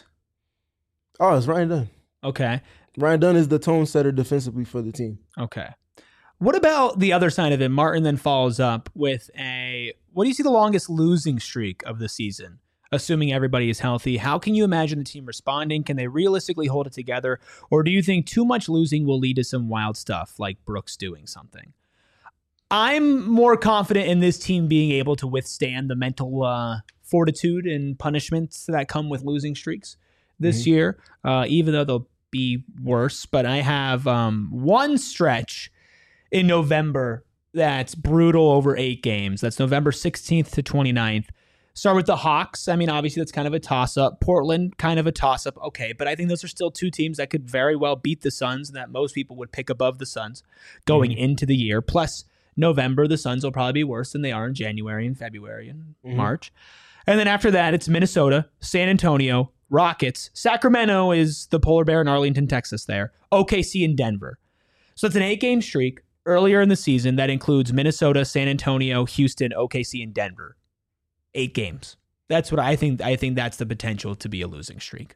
Oh, it's Ryan Dunn. Okay. Ryan Dunn is the tone setter defensively for the team. Okay. What about the other side of it? Martin then follows up with a, what do you see the longest losing streak of the season? Assuming everybody is healthy, how can you imagine the team responding? Can they realistically hold it together? Or do you think too much losing will lead to some wild stuff like Brooks doing something? I'm more confident in this team being able to withstand the mental uh, fortitude and punishments that come with losing streaks this mm-hmm. year, uh, even though they'll be worse. But I have um, one stretch in November that's brutal over eight games. That's November sixteenth to twenty-ninth. Start with the Hawks. I mean, obviously, that's kind of a toss-up. Portland, kind of a toss-up. Okay, but I think those are still two teams that could very well beat the Suns and that most people would pick above the Suns going mm-hmm. into the year. Plus, November, the Suns will probably be worse than they are in January and February and mm-hmm. March. And then after that, it's Minnesota, San Antonio, Rockets. Sacramento is the polar bear in Arlington, Texas there. O K C and Denver. So it's an eight-game streak earlier in the season that includes Minnesota, San Antonio, Houston, O K C, and Denver. Eight games. That's what I think. I think that's the potential to be a losing streak.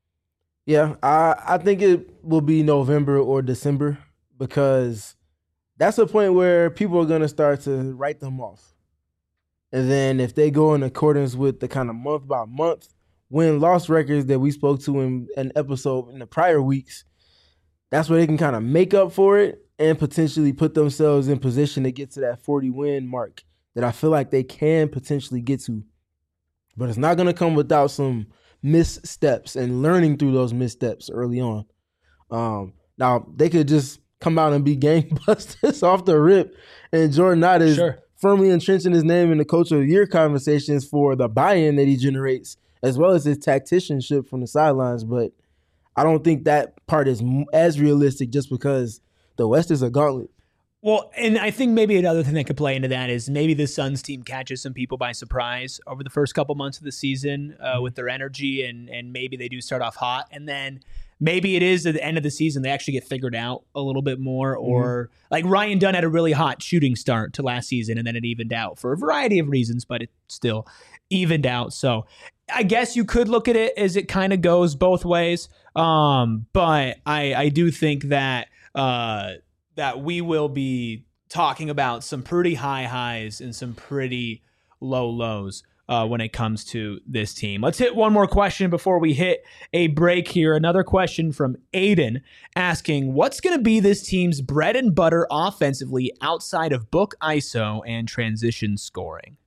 Yeah, I, I think it will be November or December because that's a point where people are going to start to write them off. And then if they go in accordance with the kind of month by month win-loss records that we spoke to in an episode in the prior weeks, that's where they can kind of make up for it and potentially put themselves in position to get to that forty-win mark that I feel like they can potentially get to. But it's not going to come without some missteps and learning through those missteps early on. Um, now, they could just come out and be gangbusters off the rip, and Jordan Knott is sure. firmly entrenching his name in the Coach of the Year conversations for the buy-in that he generates, as well as his tacticianship from the sidelines. But I don't think that part is as realistic just because the West is a gauntlet. Well, and I think maybe another thing that could play into that is maybe the Suns team catches some people by surprise over the first couple months of the season uh, with their energy, and and maybe they do start off hot, and then maybe it is at the end of the season they actually get figured out a little bit more, or mm-hmm. like Ryan Dunn had a really hot shooting start to last season, and then it evened out for a variety of reasons, but it still evened out. So I guess you could look at it as it kind of goes both ways, um, but I I do think that. Uh, that we will be talking about some pretty high highs and some pretty low lows uh, when it comes to this team. Let's hit one more question before we hit a break here. Another question from Aiden asking, what's going to be this team's bread and butter offensively outside of book I S O and transition scoring?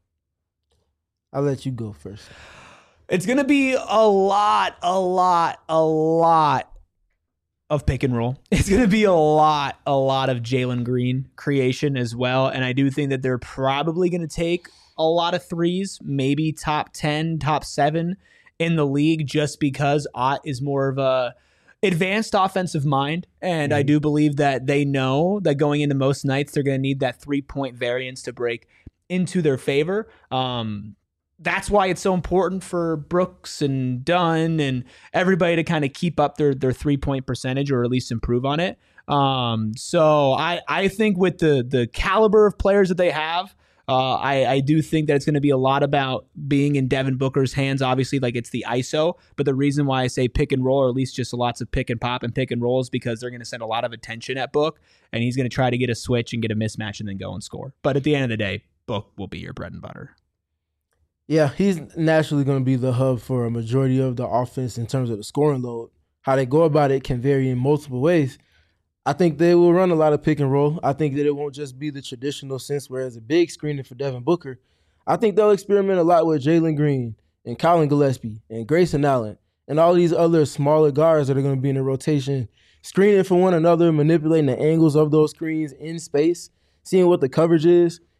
I'll let you go first. It's going to be a lot, a lot, a lot of pick and roll. It's going to be a lot, a lot of Jalen Green creation as well. And I do think that they're probably going to take a lot of threes, maybe top ten, top seven in the league, just because Ott is more of a advanced offensive mind. And mm-hmm. I do believe that they know that going into most nights, they're going to need that three point variance to break into their favor. Um, That's why it's so important for Brooks and Dunn and everybody to kind of keep up their their three-point percentage or at least improve on it. Um, so I, I think with the the caliber of players that they have, uh, I, I do think that it's going to be a lot about being in Devin Booker's hands. Obviously, like it's the I S O, but the reason why I say pick and roll, or at least just lots of pick and pop and pick and roll, is because they're going to send a lot of attention at Book, and he's going to try to get a switch and get a mismatch and then go and score. But at the end of the day, Book will be your bread and butter. Yeah, he's naturally going to be the hub for a majority of the offense in terms of the scoring load. How they go about it can vary in multiple ways. I think they will run a lot of pick and roll. I think that it won't just be the traditional sense where it's a big screening for Devin Booker. I think they'll experiment a lot with Jalen Green and Colin Gillespie and Grayson Allen and all these other smaller guards that are going to be in the rotation, screening for one another, manipulating the angles of those screens in space, seeing what the coverage is,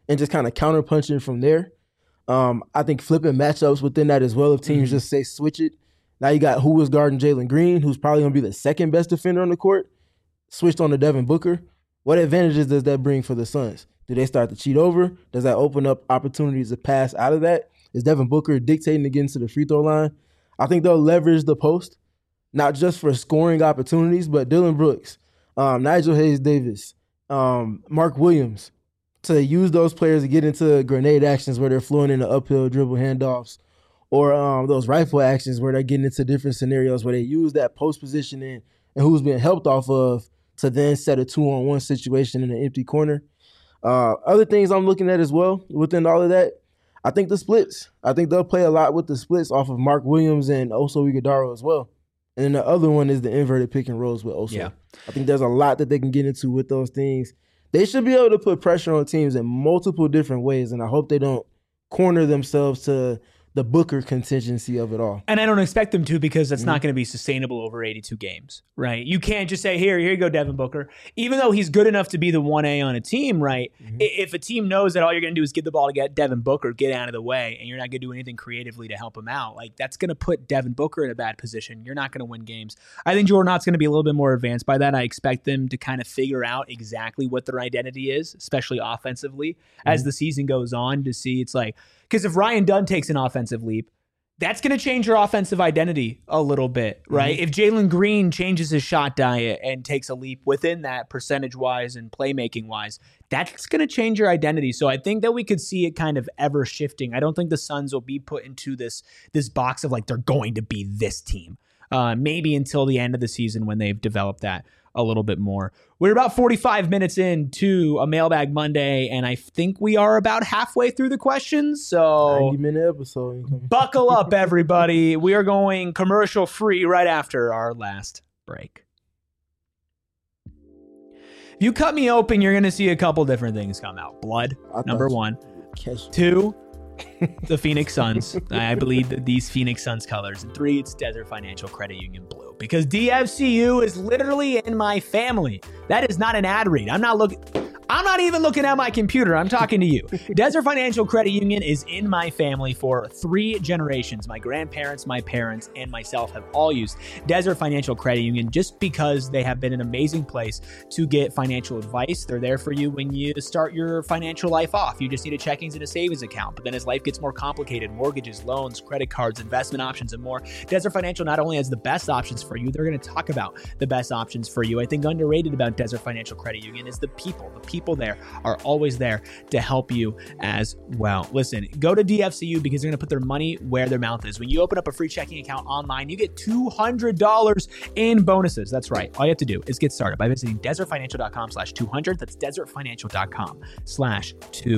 and just kind of counterpunching from there. Um, I think flipping matchups within that as well. If teams mm-hmm. just say switch it. Now you got who was guarding Jalen Green, who's probably going to be the second best defender on the court, switched on to Devin Booker. What advantages does that bring for the Suns? Do they start to cheat over? Does that open up opportunities to pass out of that? Is Devin Booker dictating to get into the free throw line? I think they'll leverage the post, not just for scoring opportunities, but Dylan Brooks, um, Nigel Hayes-Davis, um, Mark Williams, to use those players to get into grenade actions where they're flowing into uphill dribble handoffs, or um, those rifle actions where they're getting into different scenarios where they use that post positioning and who's being helped off of to then set a two-on-one situation in an empty corner. Uh, other things I'm looking at as well within all of that, I think the splits. I think they'll play a lot with the splits off of Mark Williams and Oso Ighodaro as well. And then the other one is the inverted pick and rolls with Oso. Yeah. I think there's a lot that they can get into with those things. They should be able to put pressure on teams in multiple different ways, and I hope they don't corner themselves to the Booker contingency of it all. And I don't expect them to, because that's mm-hmm. not going to be sustainable over eighty-two games, right? You can't just say, here, here you go, Devin Booker. Even though he's good enough to be the one A on a team, right? Mm-hmm. If a team knows that all you're going to do is give the ball to get Devin Booker, get out of the way, and you're not going to do anything creatively to help him out, like that's going to put Devin Booker in a bad position. You're not going to win games. I think Jordan Knott's going to be a little bit more advanced by that. I expect them to kind of figure out exactly what their identity is, especially offensively, mm-hmm. as the season goes on, to see it's like, because if Ryan Dunn takes an offensive leap, that's going to change your offensive identity a little bit, right? Mm-hmm. If Jalen Green changes his shot diet and takes a leap within that percentage-wise and playmaking-wise, that's going to change your identity. So I think that we could see it kind of ever shifting. I don't think the Suns will be put into this, this box of like they're going to be this team. Uh, maybe until the end of the season when they've developed that a little bit more. We're about forty-five minutes into a Mailbag Monday, and I think we are about halfway through the questions. So ninety minute episode. Buckle up, everybody. We are going commercial free right after our last break. If you cut me open, you're going to see a couple different things come out. Blood, number one. Two, the Phoenix Suns. I believe that these Phoenix Suns colors. And three, it's Desert Financial Credit Union blue. Because D F C U is literally in my family. That is not an ad read. I'm not looking... I'm not even looking at my computer. I'm talking to you. Desert Financial Credit Union is in my family for three generations. My grandparents, my parents, and myself have all used Desert Financial Credit Union just because they have been an amazing place to get financial advice. They're there for you when you start your financial life off. You just need a checkings and a savings account. But then as life gets more complicated, mortgages, loans, credit cards, investment options, and more, Desert Financial not only has the best options for you, they're going to talk about the best options for you. I think underrated about Desert Financial Credit Union is the people. The people People there are always there to help you as well. Listen, go to D F C U because they're going to put their money where their mouth is. When you open up a free checking account online, you get two hundred dollars in bonuses. That's right. All you have to do is get started by visiting desertfinancial.com slash 200. That's desertfinancial.com slash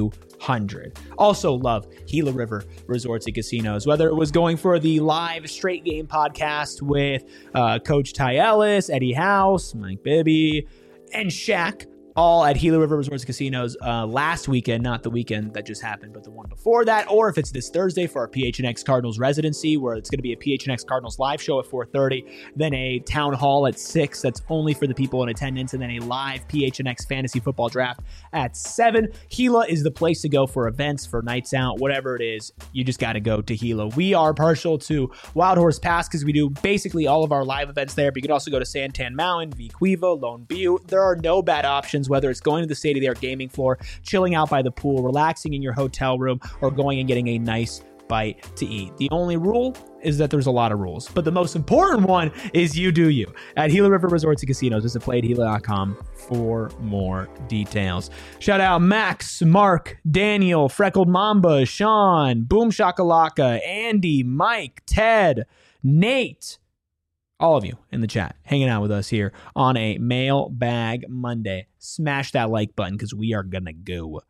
200. Also love Gila River Resorts and Casinos. Whether it was going for the live straight game podcast with uh, Coach Ty Ellis, Eddie House, Mike Bibby, and Shaq, all at Gila River Resorts and Casinos uh, last weekend, not the weekend that just happened, but the one before that, or if it's this Thursday for our P H N X Cardinals residency, where it's going to be a P H N X Cardinals live show at four thirty, then a town hall at six that's only for the people in attendance, and then a live P H N X fantasy football draft at seven. Gila is the place to go for events, for nights out, whatever it is. You just got to go to Gila. We are partial to Wild Horse Pass because we do basically all of our live events there, but you can also go to Santan Mountain, V Quiva, Lone Butte. There are no bad options, whether it's going to the state-of-the-art gaming floor, chilling out by the pool, relaxing in your hotel room, or going and getting a nice bite to eat. The only rule is that there's a lot of rules, but the most important one is you do you. At Gila River Resorts and Casinos, visit play at gila dot com for more details. Shout out Max, Mark, Daniel, Freckled Mamba, Sean, Boom Shakalaka, Andy, Mike, Ted, Nate, all of you in the chat hanging out with us here on a Mailbag Monday. Smash that like button because we are going to go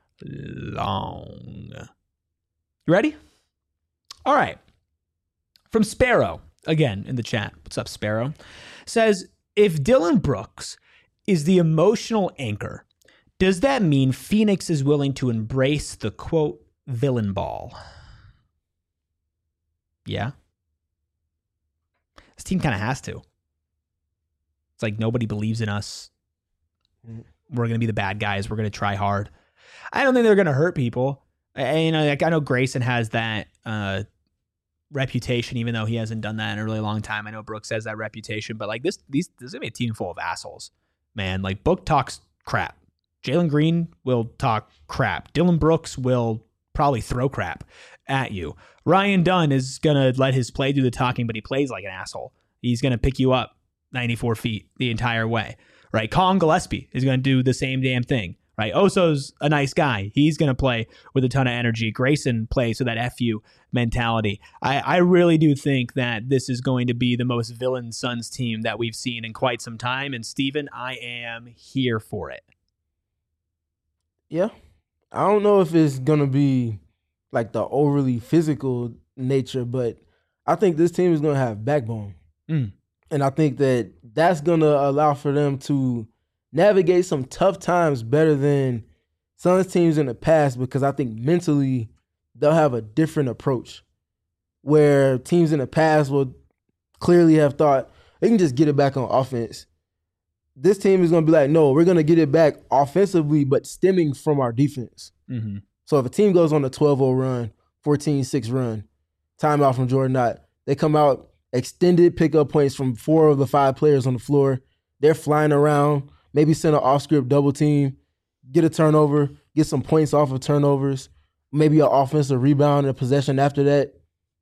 long. You ready? All right. From Sparrow, again in the chat. What's up, Sparrow? Says, if Dylan Brooks is the emotional anchor, does that mean Phoenix is willing to embrace the, quote, villain ball? Yeah. This team kind of has to. It's like nobody believes in us. We're going to be the bad guys. We're going to try hard. I don't think they're going to hurt people. And, you know, like I know Grayson has that uh, reputation, even though he hasn't done that in a really long time. I know Brooks has that reputation, but like this, these, this is gonna be a team full of assholes, man. Like Book talks crap. Jalen Green will talk crap. Dylan Brooks will probably throw crap at you. Ryan Dunn is gonna let his play do the talking, but he plays like an asshole. He's gonna pick you up ninety-four feet the entire way, right? Colin Gillespie is gonna do the same damn thing. Right, Oso's a nice guy. He's going to play with a ton of energy. Grayson plays with that F U mentality. I, I really do think that this is going to be the most villain Suns team that we've seen in quite some time. And Steven, I am here for it. Yeah. I don't know if it's going to be like the overly physical nature, but I think this team is going to have backbone. Mm. And I think that that's going to allow for them to navigate some tough times better than Suns teams in the past, because I think mentally they'll have a different approach where teams in the past will clearly have thought they can just get it back on offense. This team is going to be like, no, we're going to get it back offensively, but stemming from our defense. Mm-hmm. So if a team goes on a twelve oh run, fourteen six run, timeout from Jordan Knott, they come out, extended pickup points from four of the five players on the floor. They're flying around. Maybe send an off-script double team, get a turnover, get some points off of turnovers, maybe an offensive rebound and a possession after that.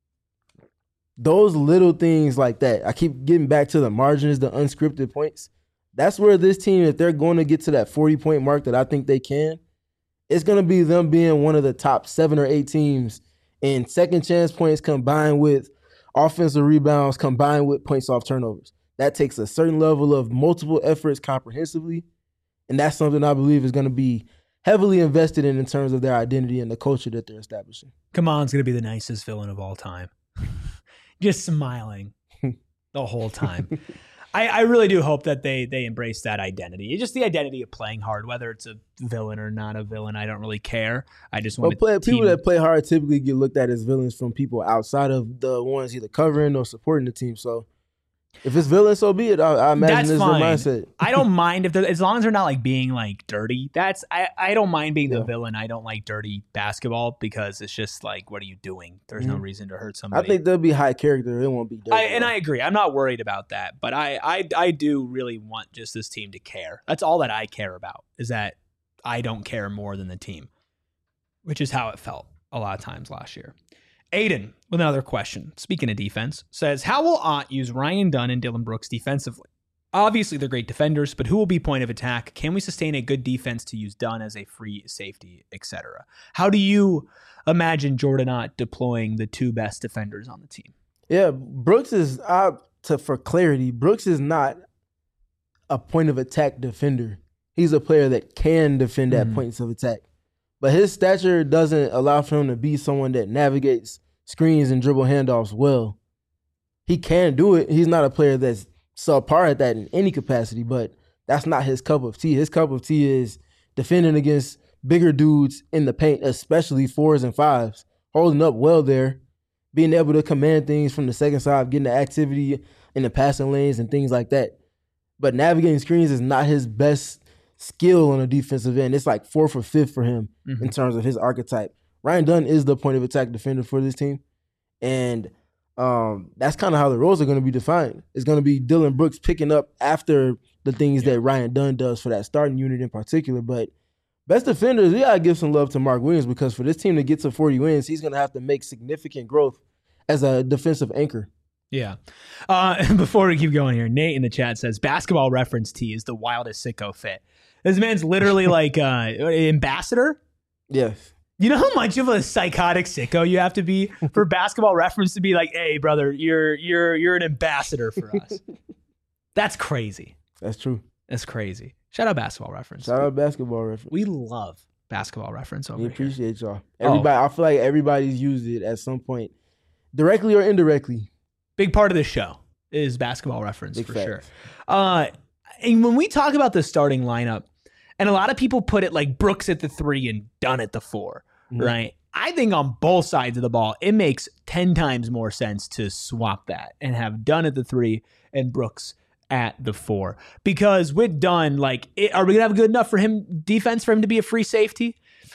Those little things like that. I keep getting back to the margins, the unscripted points. That's where this team, if they're going to get to that forty-point mark that I think they can, it's going to be them being one of the top seven or eight teams in second chance points combined with offensive rebounds combined with points off turnovers. That takes a certain level of multiple efforts comprehensively, and that's something I believe is going to be heavily invested in in terms of their identity and the culture that they're establishing. Come on, it's going to be the nicest villain of all time. Just smiling the whole time. I, I really do hope that they they embrace that identity. It's just the identity of playing hard, whether it's a villain or not a villain. I don't really care. I just want well, to play, people that play hard typically get looked at as villains from people outside of the ones either covering or supporting the team. So if it's villain, so be it. I, I imagine that's this fine. is their mindset. I don't mind if they're, as long as they're not like being like dirty. That's I, I don't mind being Yeah. the villain. I don't like dirty basketball because it's just like, what are you doing? There's Mhm. no reason to hurt I somebody. think they'll be high character. It won't be dirty. I, and I agree. I'm not worried about that, but I, I I do really want just this team to care. That's all that I care about, is that I don't care more than the team, which is how it felt a lot of times last year. Aiden, with another question, speaking of defense, says, how will Ott use Ryan Dunn and Dylan Brooks defensively? Obviously, they're great defenders, but who will be point of attack? Can we sustain a good defense to use Dunn as a free safety, et cetera? How do you imagine Jordan Ott deploying the two best defenders on the team? Yeah, Brooks is, uh, to for clarity, Brooks is not a point of attack defender. He's a player that can defend at Mhm. points of attack. But his stature doesn't allow for him to be someone that navigates screens and dribble handoffs well. He can do it. He's not a player that's subpar at that in any capacity, but that's not his cup of tea. His cup of tea is defending against bigger dudes in the paint, especially fours and fives, holding up well there, being able to command things from the second side, getting the activity in the passing lanes and things like that. But navigating screens is not his best skill on a defensive end. It's like fourth or fifth for him Mhm. in terms of his archetype. Ryan Dunn is the point of attack defender for this team. And um, that's kind of how the roles are going to be defined. It's going to be Dylan Brooks picking up after the things Yeah. that Ryan Dunn does for that starting unit in particular. But best defenders, we got to give some love to Mark Williams, because for this team to get to forty wins, he's going to have to make significant growth as a defensive anchor. Yeah. Uh, before we keep going here, Nate in the chat says, Basketball Reference T is the wildest sicko fit. This man's literally like uh, ambassador. Yes. You know how much of a psychotic sicko you have to be for Basketball Reference to be like, hey, brother, you're you're you're an ambassador for us. That's crazy. That's true. That's crazy. Shout out Basketball Reference. Shout out Basketball Reference. We love Basketball Reference over We here. appreciate y'all. Everybody, I feel like everybody's used it at some point, directly or indirectly. Big part of this show is Basketball Reference, Big for facts. sure. Uh, and when we talk about the starting lineup, and a lot of people put it like Brooks at the three and Dunn at the four, Mhm. right? I think on both sides of the ball, it makes ten times more sense to swap that and have Dunn at the three and Brooks at the four. Because with Dunn, like, it, are we going to have good enough for him defense for him to be a free safety?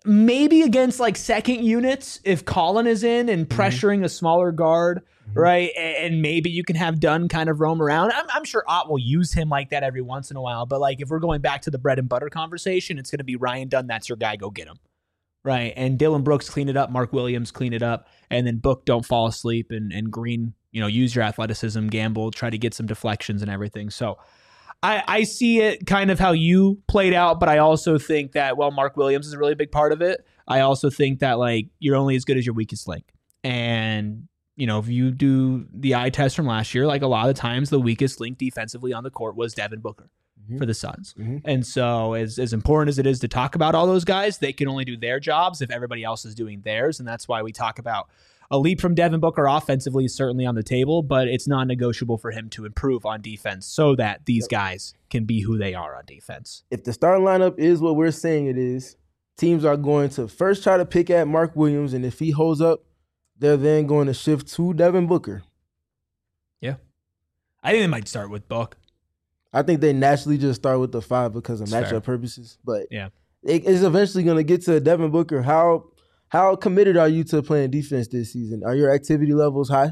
maybe against like second units if Colin is in and pressuring mm-hmm. a smaller guard, mm-hmm. right? And maybe you can have Dunn kind of roam around. I'm, I'm sure Ott will use him like that every once in a while. But like if we're going back to the bread and butter conversation, it's going to be Ryan Dunn. That's your guy. Go get him. Right. And Dylan Brooks, clean it up. Mark Williams, clean it up. And then Book, don't fall asleep. And, and Green, you know, use your athleticism, gamble, try to get some deflections and everything. So I, I see it kind of how you played out, but I also think that, well, Mark Williams is a really big part of it. I also think that, like, you're only as good as your weakest link. And, you know, if you do the eye test from last year, like a lot of times the weakest link defensively on the court was Devin Booker mm-hmm. for the Suns. Mm-hmm. And so as, as important as it is to talk about all those guys, they can only do their jobs if everybody else is doing theirs. And that's why we talk about a leap from Devin Booker offensively is certainly on the table, but it's non-negotiable for him to improve on defense so that these yep. guys can be who they are on defense. If the starting lineup is what we're saying it is, teams are going to first try to pick at Mark Williams, and if he holds up, they're then going to shift to Devin Booker. Yeah. I think they might start with Book. I think they naturally just start with the five because of That's matchup fair. purposes, but yeah, it is eventually going to get to Devin Booker. How How committed are you to playing defense this season? Are your activity levels high?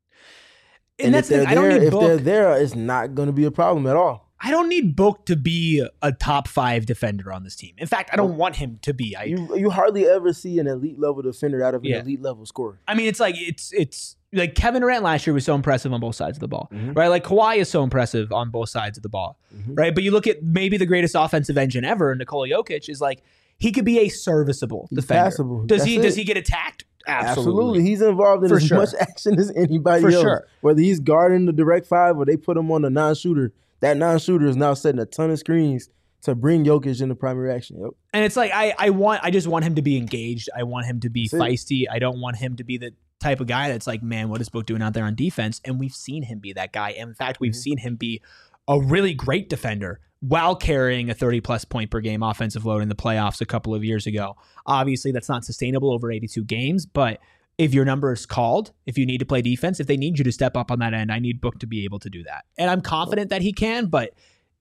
And, and that's the thing. I don't there, need if Book. they're there, it's not going to be a problem at all. I don't need Book to be a top five defender on this team. In fact, I don't want him to be. I, you you hardly ever see an elite level defender out of an yeah. elite level scorer. I mean, it's like it's it's like Kevin Durant last year was so impressive on both sides of the ball, mm-hmm. right? Like Kawhi is so impressive on both sides of the ball, mm-hmm. right? But you look at maybe the greatest offensive engine ever, Nikola Jokic, is like he could be a serviceable He's defender. Passable. Does That's he? it. Does he get attacked? Absolutely. Absolutely. He's involved in For as sure. much action as anybody For else. sure. Whether he's guarding the direct five or they put him on the non-shooter, that non-shooter is now setting a ton of screens to bring Jokic into primary action. Yep. And it's like I, I want I just want him to be engaged. I want him to be That's feisty. It. I don't want him to be the type of guy that's like, man, what is Book doing out there on defense? And we've seen him be that guy. And in fact, we've mm-hmm. seen him be a really great defender while carrying a thirty-plus point per game offensive load in the playoffs a couple of years ago. Obviously, that's not sustainable over eighty-two games, but if your number is called, if you need to play defense, if they need you to step up on that end, I need Book to be able to do that. And I'm confident that he can, but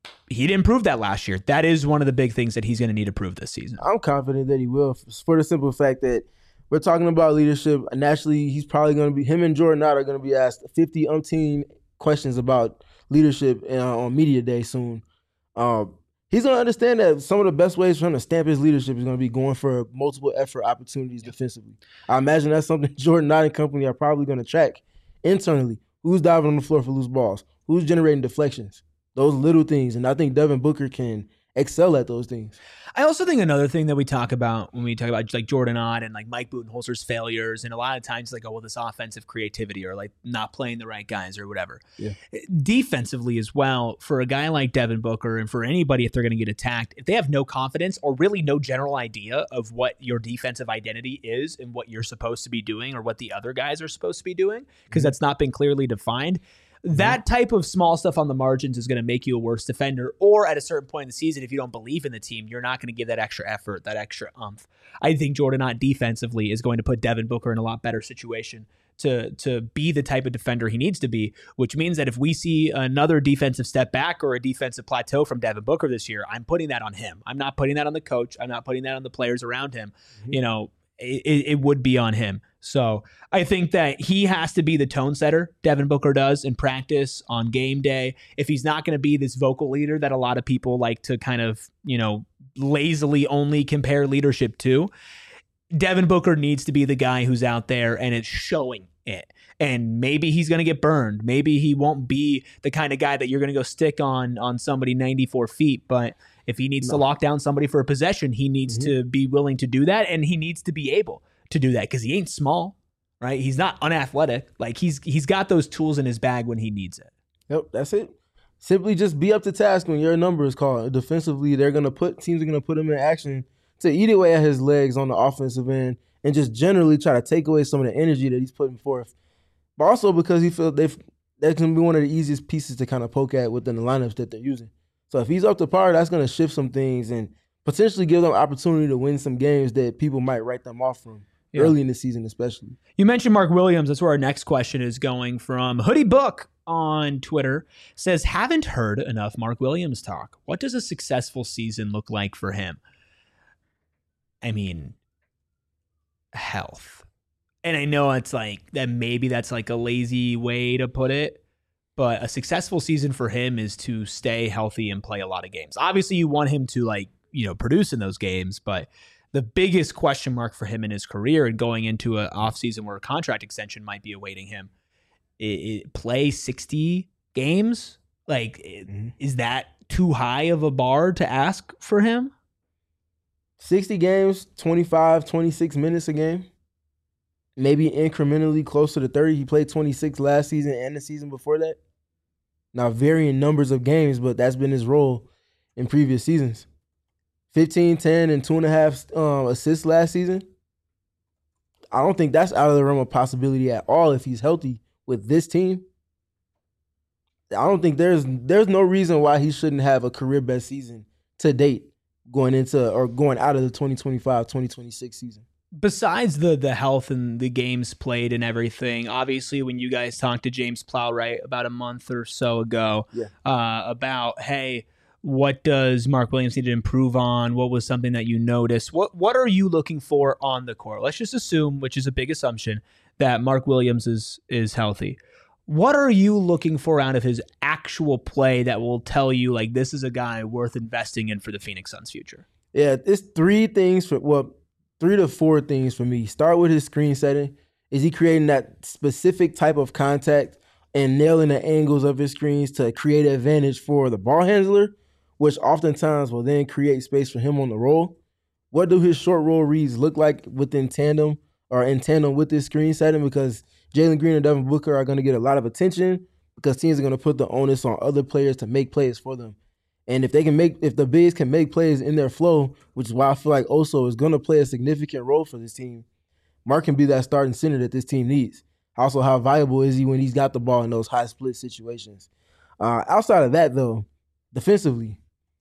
he didn't prove that last year. That is one of the big things that he's going to need to prove this season. I'm confident that he will, for the simple fact that we're talking about leadership. Naturally, he's probably going to be, him and Jordan Ott are going to be asked fifty umpteen questions about leadership uh, on media day soon. Um, he's going to understand that some of the best ways for him to stamp his leadership is going to be going for multiple effort opportunities defensively. I imagine that's something Jordan Ott and company are probably going to track internally. Who's diving on the floor for loose balls? Who's generating deflections? Those little things. And I think Devin Booker can excel at those things. I also think another thing that we talk about when we talk about like Jordan Ott and like Mike Budenholzer's failures, and a lot of times like, oh, well, this offensive creativity or like not playing the right guys or whatever. Yeah. Defensively as well, for a guy like Devin Booker and for anybody if they're going to get attacked, if they have no confidence or really no general idea of what your defensive identity is and what you're supposed to be doing or what the other guys are supposed to be doing, because mm-hmm. that's not been clearly defined, that type of small stuff on the margins is going to make you a worse defender. Or at a certain point in the season, if you don't believe in the team, you're not going to give that extra effort, that extra umph. I think Jordan Ott defensively is going to put Devin Booker in a lot better situation to, to be the type of defender he needs to be, which means that if we see another defensive step back or a defensive plateau from Devin Booker this year, I'm putting that on him. I'm not putting that on the coach. I'm not putting that on the players around him. Mm-hmm. You know, it, it would be on him. So I think that he has to be the tone setter, Devin Booker does, in practice, on game day. If he's not going to be this vocal leader that a lot of people like to kind of, you know, lazily only compare leadership to, Devin Booker needs to be the guy who's out there and it's showing it. And maybe he's going to get burned. Maybe he won't be the kind of guy that you're going to go stick on on somebody ninety-four feet. But if he needs no. to lock down somebody for a possession, he needs mm-hmm. to be willing to do that. And he needs to be able to do that because he ain't small, right? He's not unathletic. Like he's he's got those tools in his bag when he needs it. Yep, that's it. Simply just be up to task when your number is called. Defensively, they're gonna put teams are gonna put him in action to eat away at his legs on the offensive end and just generally try to take away some of the energy that he's putting forth. But also because he feels they that can be one of the easiest pieces to kind of poke at within the lineups that they're using. So if he's up to par, that's gonna shift some things and potentially give them opportunity to win some games that people might write them off from. Yeah. Early in the season, especially. You mentioned Mark Williams. That's where our next question is going from. Hoodie Book on Twitter says, haven't heard enough Mark Williams talk. What does a successful season look like for him? I mean, health. And I know it's like that maybe that's like a lazy way to put it, but a successful season for him is to stay healthy and play a lot of games. Obviously, you want him to like, you know, produce in those games, but the biggest question mark for him in his career and going into an offseason where a contract extension might be awaiting him, it, it, play sixty games? Like, mm-hmm. is that too high of a bar to ask for him? sixty games, twenty-five, twenty-six minutes a game. Maybe incrementally closer to thirty. He played twenty-six last season and the season before that. Now, varying numbers of games, but that's been his role in previous seasons. fifteen, ten, and two and a half um, assists last season. I don't think that's out of the realm of possibility at all if he's healthy with this team. I don't think there's there's no reason why he shouldn't have a career best season to date going into or going out of the twenty twenty-five twenty twenty-six season. Besides the the health and the games played and everything, obviously when you guys talked to James Plowright about a month or so ago yeah. uh, about, hey, what does Mark Williams need to improve on? What was something that you noticed? What what are you looking for on the court? Let's just assume, which is a big assumption, that Mark Williams is is healthy. What are you looking for out of his actual play that will tell you, like, this is a guy worth investing in for the Phoenix Suns' future? Yeah, it's three things for well. Three to four things for me. Start with his screen setting. Is he creating that specific type of contact and nailing the angles of his screens to create an advantage for the ball handler, which oftentimes will then create space for him on the roll? What do his short roll reads look like within tandem or in tandem with this screen setting? Because Jalen Green and Devin Booker are going to get a lot of attention because teams are going to put the onus on other players to make plays for them. And if they can make, if the bigs can make plays in their flow, which is why I feel like Oso is going to play a significant role for this team, Mark can be that starting center that this team needs. Also, how valuable is he when he's got the ball in those high split situations? Uh, outside of that, though, defensively,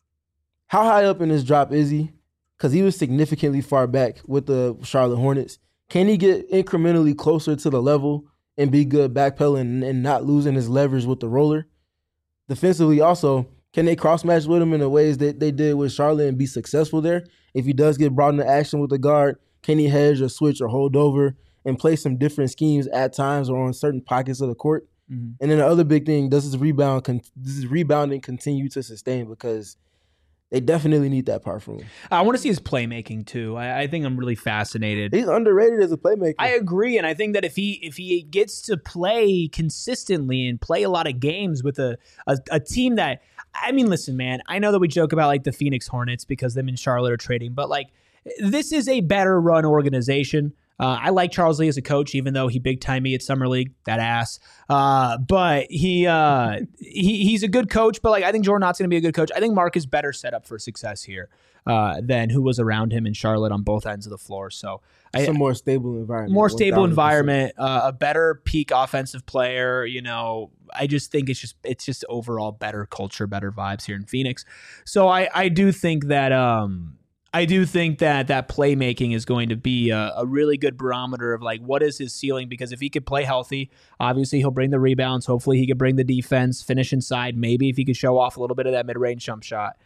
how high up in his drop is he? Because he was significantly far back with the Charlotte Hornets. Can he get incrementally closer to the level and be good backpedaling and not losing his leverage with the roller? Defensively, also, can they cross-match with him in the ways that they did with Charlotte and be successful there? If he does get brought into action with the guard, can he hedge or switch or hold over and play some different schemes at times or on certain pockets of the court? Mm-hmm. And then the other big thing, does his rebound, con- does his rebounding continue to sustain? Because they definitely need that part from him. I want to see his playmaking too. I, I think I'm really fascinated. He's underrated as a playmaker. I agree, and I think that if he if he gets to play consistently and play a lot of games with a a, a team that, I mean, listen, man, I know that we joke about like the Phoenix Hornets because them and Charlotte are trading, but like this is a better run organization. Uh, I like Charles Lee as a coach, even though he big time me at Summer League, that ass. Uh, but he uh, he he's a good coach. But like I think Jordan Knott's going to be a good coach. I think Mark is better set up for success here uh, than who was around him in Charlotte on both ends of the floor. So it's I, a more stable environment, more stable environment, uh, a better peak offensive player. You know, I just think it's just it's just overall better culture, better vibes here in Phoenix. So I I do think that. Um, I do think that that playmaking is going to be a, a really good barometer of like what is his ceiling, because if he could play healthy, obviously he'll bring the rebounds. Hopefully he could bring the defense, finish inside. Maybe if he could show off a little bit of that mid-range jump shot.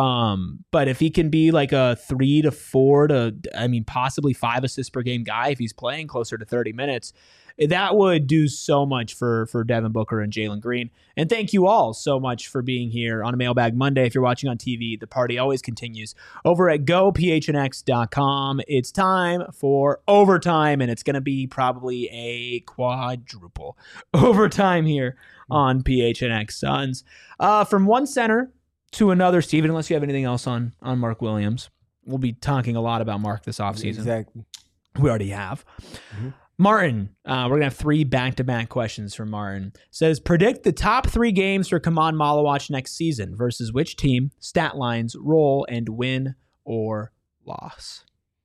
Um, but if he can be like a three to four to, I mean, possibly five assists per game guy, if he's playing closer to thirty minutes, that would do so much for, for Devin Booker and Jalen Green. And thank you all so much for being here on a Mailbag Monday. If you're watching on T V, the party always continues over at go p h n x dot com. It's time for overtime, and it's going to be probably a quadruple overtime here on P H N X Suns. Uh, from one center to another, Steven, unless you have anything else on, on Mark Williams. We'll be talking a lot about Mark this offseason. Exactly. We already have. Mm-hmm. Martin, uh, we're going to have three back-to-back questions from Martin. Says, predict the top three games for Kaman Malawach next season versus which team, stat lines, role, and win or loss.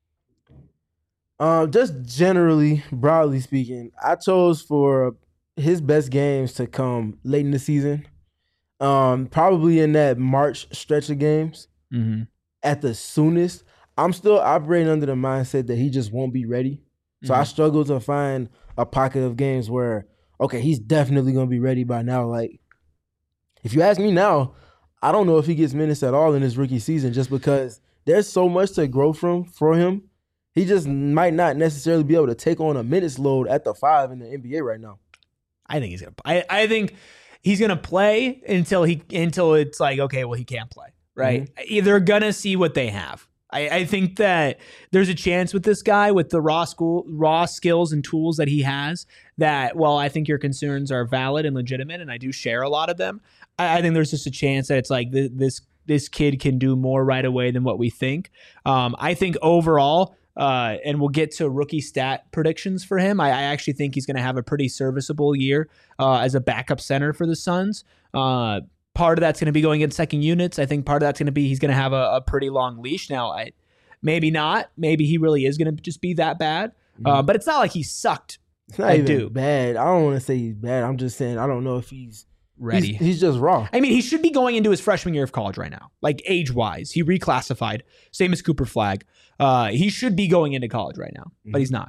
Uh, just generally, broadly speaking, I chose for his best games to come late in the season. Um, probably in that March stretch of games. Mm-hmm. At the soonest. I'm still operating under the mindset that he just won't be ready. So mm-hmm. I struggle to find a pocket of games where, okay, he's definitely going to be ready by now. Like, if you ask me now, I don't know if he gets minutes at all in his rookie season just because there's so much to grow from for him. He just might not necessarily be able to take on a minutes load at the five in the N B A right now. I think he's gonna. I, I think he's gonna play until he until it's like, okay, well, he can't play, right? Mm-hmm. They're gonna see what they have. I, I think that there's a chance with this guy with the raw school raw skills and tools that he has. That while I think your concerns are valid and legitimate, and I do share a lot of them, I, I think there's just a chance that it's like th- this this kid can do more right away than what we think. Um, I think overall. Uh, and we'll get to rookie stat predictions for him. I, I actually think he's going to have a pretty serviceable year uh, as a backup center for the Suns. Uh, part of that's going to be going in second units. I think part of that's going to be he's going to have a, a pretty long leash. Now, I maybe not. Maybe he really is going to just be that bad. Mm-hmm. Uh, but it's not like he sucked. It's not I even do. bad. I don't want to say he's bad. I'm just saying I don't know if he's ready. He's, he's just raw. I mean, he should be going into his freshman year of college right now, like age-wise. He reclassified, same as Cooper Flagg. Uh, he should be going into college right now, mm-hmm. but he's not.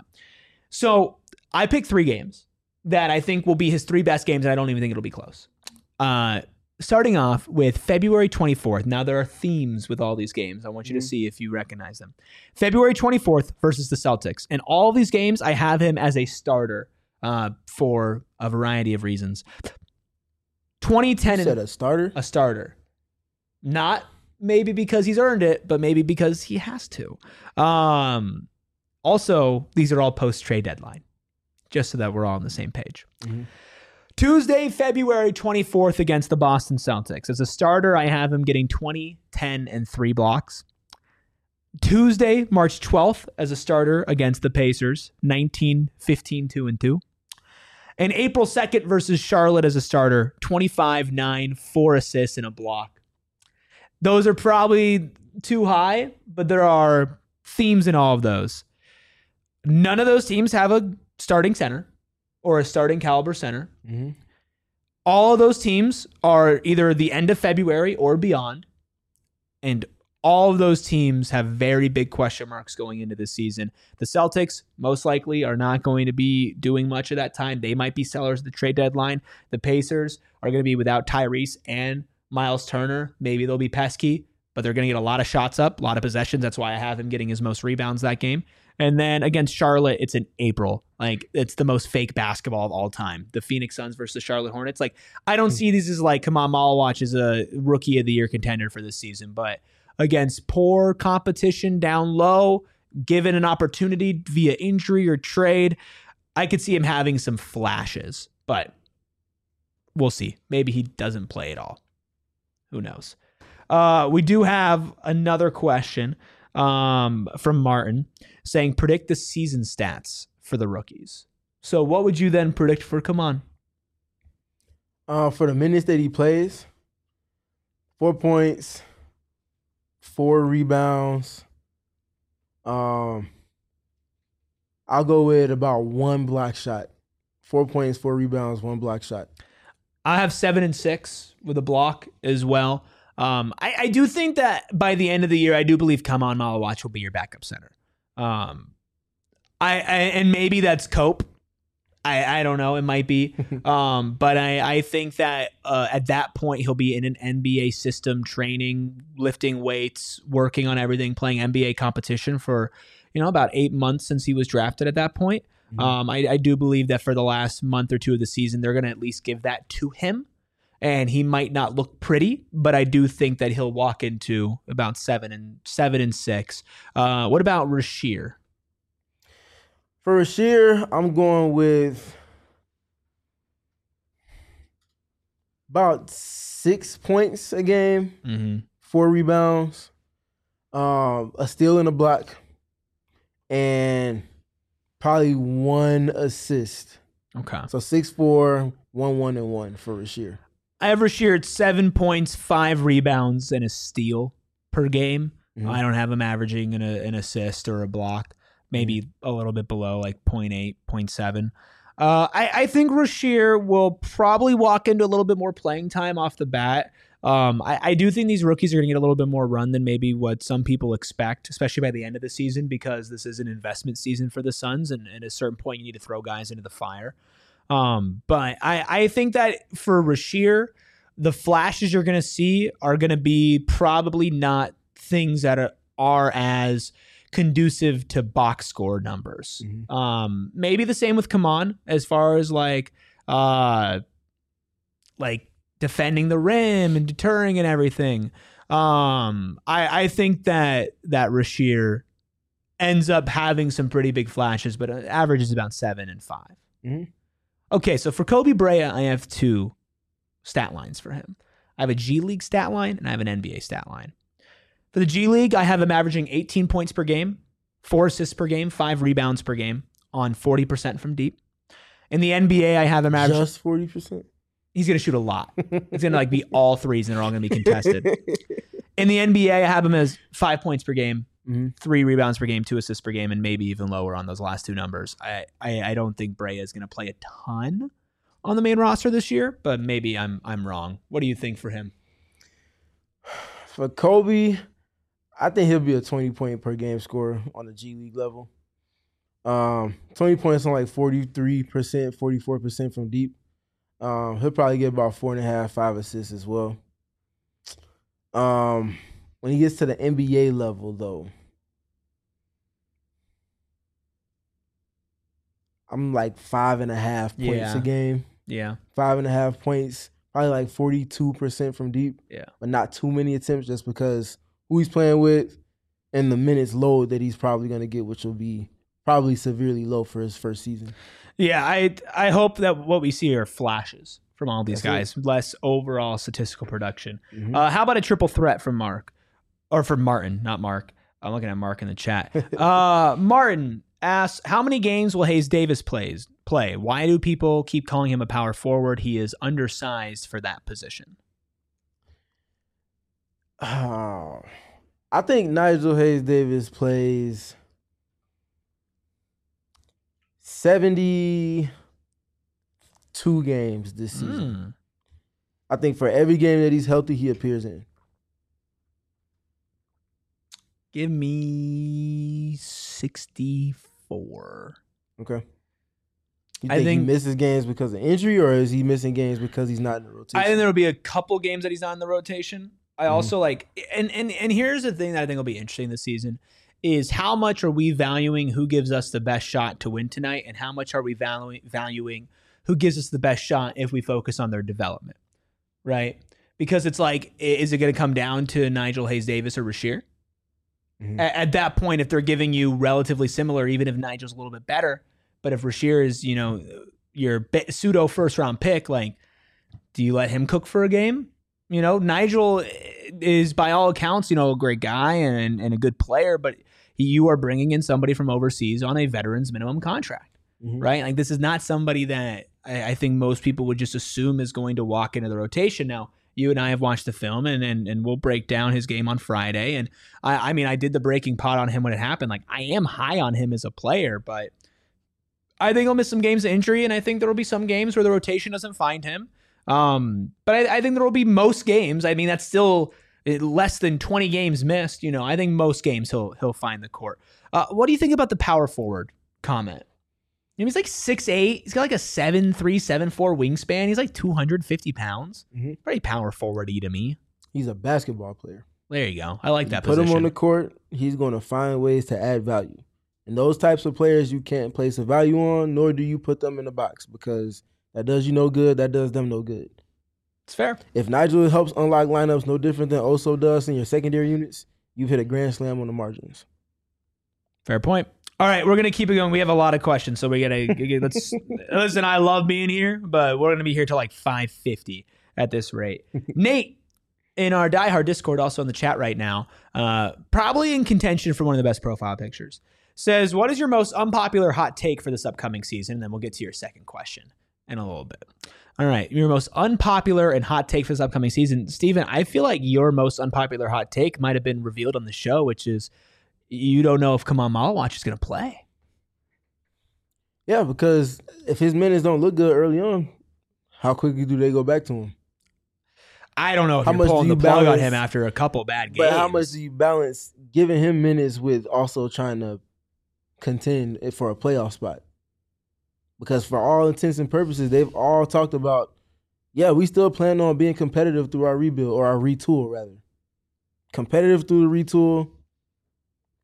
So I picked three games that I think will be his three best games, and I don't even think it'll be close. Uh, starting off with February twenty-fourth. Now, there are themes with all these games. I want you mm-hmm. to see if you recognize them. February twenty-fourth versus the Celtics. And all of these games, I have him as a starter uh, for a variety of reasons. twenty ten You said a starter? A starter. Not maybe because he's earned it, but maybe because he has to. Um, also, these are all post-trade deadline, just so that we're all on the same page. Mm-hmm. Tuesday, February twenty-fourth against the Boston Celtics. As a starter, I have him getting twenty, ten, and three blocks. Tuesday, March twelfth, as a starter against the Pacers, nineteen, fifteen, two, and two. And April second versus Charlotte as a starter, twenty-five, nine, four assists, and a block. Those are probably too high, but there are themes in all of those. None of those teams have a starting center or a starting caliber center. Mm-hmm. All of those teams are either the end of February or beyond. And all of those teams have very big question marks going into this season. The Celtics most likely are not going to be doing much of that time. They might be sellers at the trade deadline. The Pacers are going to be without Tyrese and Miles Turner. Maybe they'll be pesky, but they're going to get a lot of shots up, a lot of possessions. That's why I have him getting his most rebounds that game. And then against Charlotte, it's in April. Like, it's the most fake basketball of all time. The Phoenix Suns versus the Charlotte Hornets. Like, I don't see these as like, come on, Malawach is a rookie of the year contender for this season. But against poor competition down low, given an opportunity via injury or trade, I could see him having some flashes. But we'll see. Maybe he doesn't play at all. Who knows? Uh, we do have another question um, from Martin saying, predict the season stats for the rookies. So what would you then predict for Kaman? Uh, for the minutes that he plays, four points, four rebounds. Um, I'll go with about one block shot. Four points, four rebounds, one block shot. I have seven and six with a block as well. Um, I, I do think that by the end of the year, I do believe Kaman Malawach will be your backup center. Um, I, I and maybe that's Cope. I, I don't know. It might be. um, but I, I think that uh, at that point, he'll be in an N B A system, training, lifting weights, working on everything, playing N B A competition for, you know, about eight months since he was drafted at that point. Mm-hmm. Um, I, I do believe that for the last month or two of the season, they're going to at least give that to him. And he might not look pretty, but I do think that he'll walk into about seven and seven and six. Uh, what about Rasheer? For Rasheer, I'm going with about six points a game, mm-hmm. four rebounds, um, a steal and a block, and probably one assist. Okay. So six, four, one, one, and one for Rasheer. I have Rasheer at seven points, five rebounds, and a steal per game. Mm-hmm. I don't have him averaging an, an assist or a block. Maybe mm-hmm. a little bit below, like zero point eight, zero point seven. Uh, I, I think Rasheer will probably walk into a little bit more playing time off the bat. Um, I, I do think these rookies are going to get a little bit more run than maybe what some people expect, especially by the end of the season, because this is an investment season for the Suns, and, and at a certain point you need to throw guys into the fire. Um, but I, I think that for Rasheer, the flashes you're going to see are going to be probably not things that are are as conducive to box score numbers. Mhm. Um, maybe the same with Kaman as far as like uh, like defending the rim and deterring and everything. Um, I I think that that Rasheer ends up having some pretty big flashes, but average is about seven and five. Mhm. Okay, so for Kobe Brea, I have two stat lines for him. I have a G League stat line and I have an N B A stat line. For the G League, I have him averaging eighteen points per game, four assists per game, five rebounds per game on forty percent from deep. In the N B A, I have him averaging... Just forty percent? He's going to shoot a lot. It's going to like be all threes and they're all going to be contested. In the N B A, I have him as five points per game, mm-hmm. three rebounds per game, two assists per game, and maybe even lower on those last two numbers. I, I, I don't think Brea is going to play a ton on the main roster this year, but maybe I'm I'm wrong. What do you think for him? For Kobe, I think he'll be a twenty point per game scorer on the G League level. Um, twenty points on like forty-three percent, forty-four percent from deep. Um, he'll probably get about four and a half, five assists as well. Um, when he gets to the N B A level, though, I'm like five and a half points Yeah. a game. Yeah. Five and a half points, probably like forty-two percent from deep. Yeah. But not too many attempts just because who he's playing with and the minutes load that he's probably going to get, which will be probably severely low for his first season. Yeah, I I hope that what we see are flashes from all these That's guys, less overall statistical production. Mhm. Uh, how about a triple threat from Mark? Or from Martin, not Mark. I'm looking at Mark in the chat. Uh, Martin asks, how many games will Hayes Davis plays play? Why do people keep calling him a power forward? He is undersized for that position. Oh, I think Nigel Hayes Davis plays seventy-two games this season. Mm. I think for every game that he's healthy, he appears in. Give me sixty-four. Okay. You I think, think- he misses games because of injury, or is he missing games because he's not in the rotation? I think there will be a couple games that he's not in the rotation. I Mhm. also like, and, and and here's the thing that I think will be interesting this season is how much are we valuing who gives us the best shot to win tonight, and how much are we valuing valuing who gives us the best shot if we focus on their development, right? Because it's like, i- is it going to come down to Nigel Hayes Davis or Rasheer? Mhm. A- At that point, if they're giving you relatively similar, even if Nigel's a little bit better, but if Rasheer is, you know, your be- pseudo first round pick, like, do you let him cook for a game? You know, Nigel is by all accounts, you know, a great guy and, and a good player, but you are bringing in somebody from overseas on a veteran's minimum contract, Mhm. right? Like, this is not somebody that I, I think most people would just assume is going to walk into the rotation. Now, you and I have watched the film, and and, and we'll break down his game on Friday. And I, I mean, I did the breaking pot on him when it happened. Like, I am high on him as a player, but I think he'll miss some games of injury, and I think there will be some games where the rotation doesn't find him. Um, but I, I think there will be most games. I mean, that's still less than twenty games missed. You know, I think most games he'll he'll find the court. Uh, what do you think about the power forward comment? You know, he's like six eight. He's got like a seven three, seven four wingspan. He's like two hundred fifty pounds. Mhm. Pretty power forward-y to me. He's a basketball player. There you go. I like that Put position. him on the court, he's going to find ways to add value. And those types of players you can't place a value on, nor do you put them in the box because that does you no good, that does them no good. It's fair. If Nigel helps unlock lineups no different than Oso does in your secondary units, you've hit a grand slam on the margins. Fair point. All right, we're gonna keep it going. We have a lot of questions, so we gotta let's listen. I love being here, but we're gonna be here till like five fifty at this rate. Nate in our Die Hard Discord, also in the chat right now, uh, probably in contention for one of the best profile pictures, says, "What is your most unpopular hot take for this upcoming season?" And then we'll get to your second question in a little bit. All right, your most unpopular and hot take for this upcoming season, Steven. I feel like your most unpopular hot take might have been revealed on the show, which is you don't know if Kamal Malawach is going to play. Yeah, because if his minutes don't look good early on, how quickly do they go back to him? I don't know if How you're much pulling do the you plug on balance- him after a couple bad games. But how much do you balance giving him minutes with also trying to contend for a playoff spot? Because for all intents and purposes, they've all talked about, yeah, we still plan on being competitive through our rebuild or our retool, rather. Competitive through the retool,